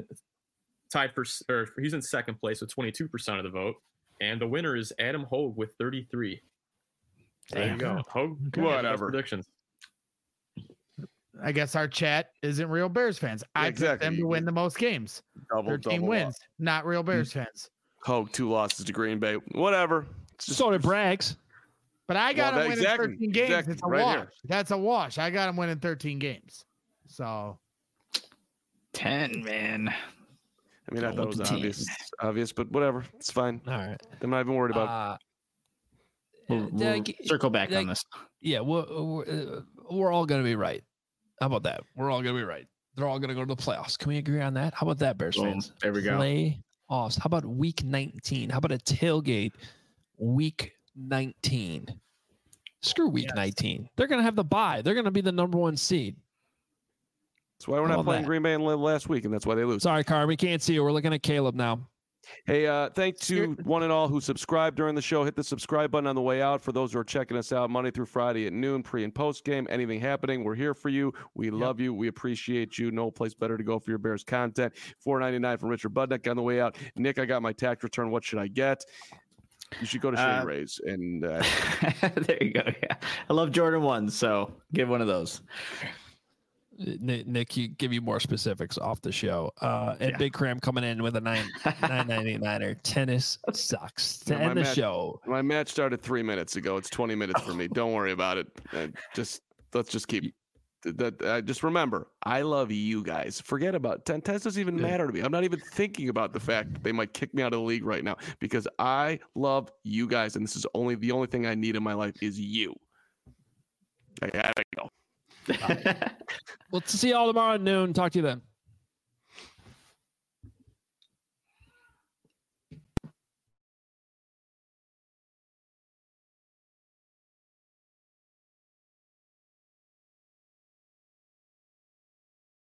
he's in second place with 22% of the vote. And the winner is Adam Hogue with 33. There you go. Hogue, whatever. Predictions. I guess our chat isn't real Bears fans. I picked them to win the most games. Their team wins, not real Bears fans. Hogue 2 losses to Green Bay. Whatever. So did Braggs. But I got him winning 13 games. Exactly, It's a right wash. here. That's a wash. I got him winning 13 games. So 10, man. I mean, I thought it was obvious, but whatever. It's fine. All right. I'm not even worried about it. We'll circle back on this. Yeah, we're all going to be right. How about that? We're all going to be right. They're all going to go to the playoffs. Can we agree on that? How about that, Bears fans? There we go. Playoffs. How about week 19? How about a tailgate week 19? Screw week 19. They're going to have the bye. They're going to be the number 1 seed. That's why we're not playing Green Bay last week, and that's why they lose. Sorry, Carm. We can't see you. We're looking at Caleb now. Hey, thanks to one and all who subscribed during the show. Hit the subscribe button on the way out. For those who are checking us out Monday through Friday at noon, pre and post game, anything happening, we're here for you. We love you. We appreciate you. No place better to go for your Bears content. $4.99 from Richard Budnick on the way out. Nick, I got my tax return. What should I get? You should go to Shady Rays. And there you go. Yeah, I love Jordan 1, so give one of those. Nick, give you more specifics off the show. And Big Cram coming in with a $9.99 tennis sucks to end the show. My match started 3 minutes ago. It's 20 minutes for me. Don't worry about it. Let's just keep that. Just remember, I love you guys. Forget about tennis. Doesn't even matter to me. I'm not even thinking about the fact that they might kick me out of the league right now because I love you guys, and this is the only thing I need in my life is you. I gotta go. We'll see y'all tomorrow at noon. Talk to you then.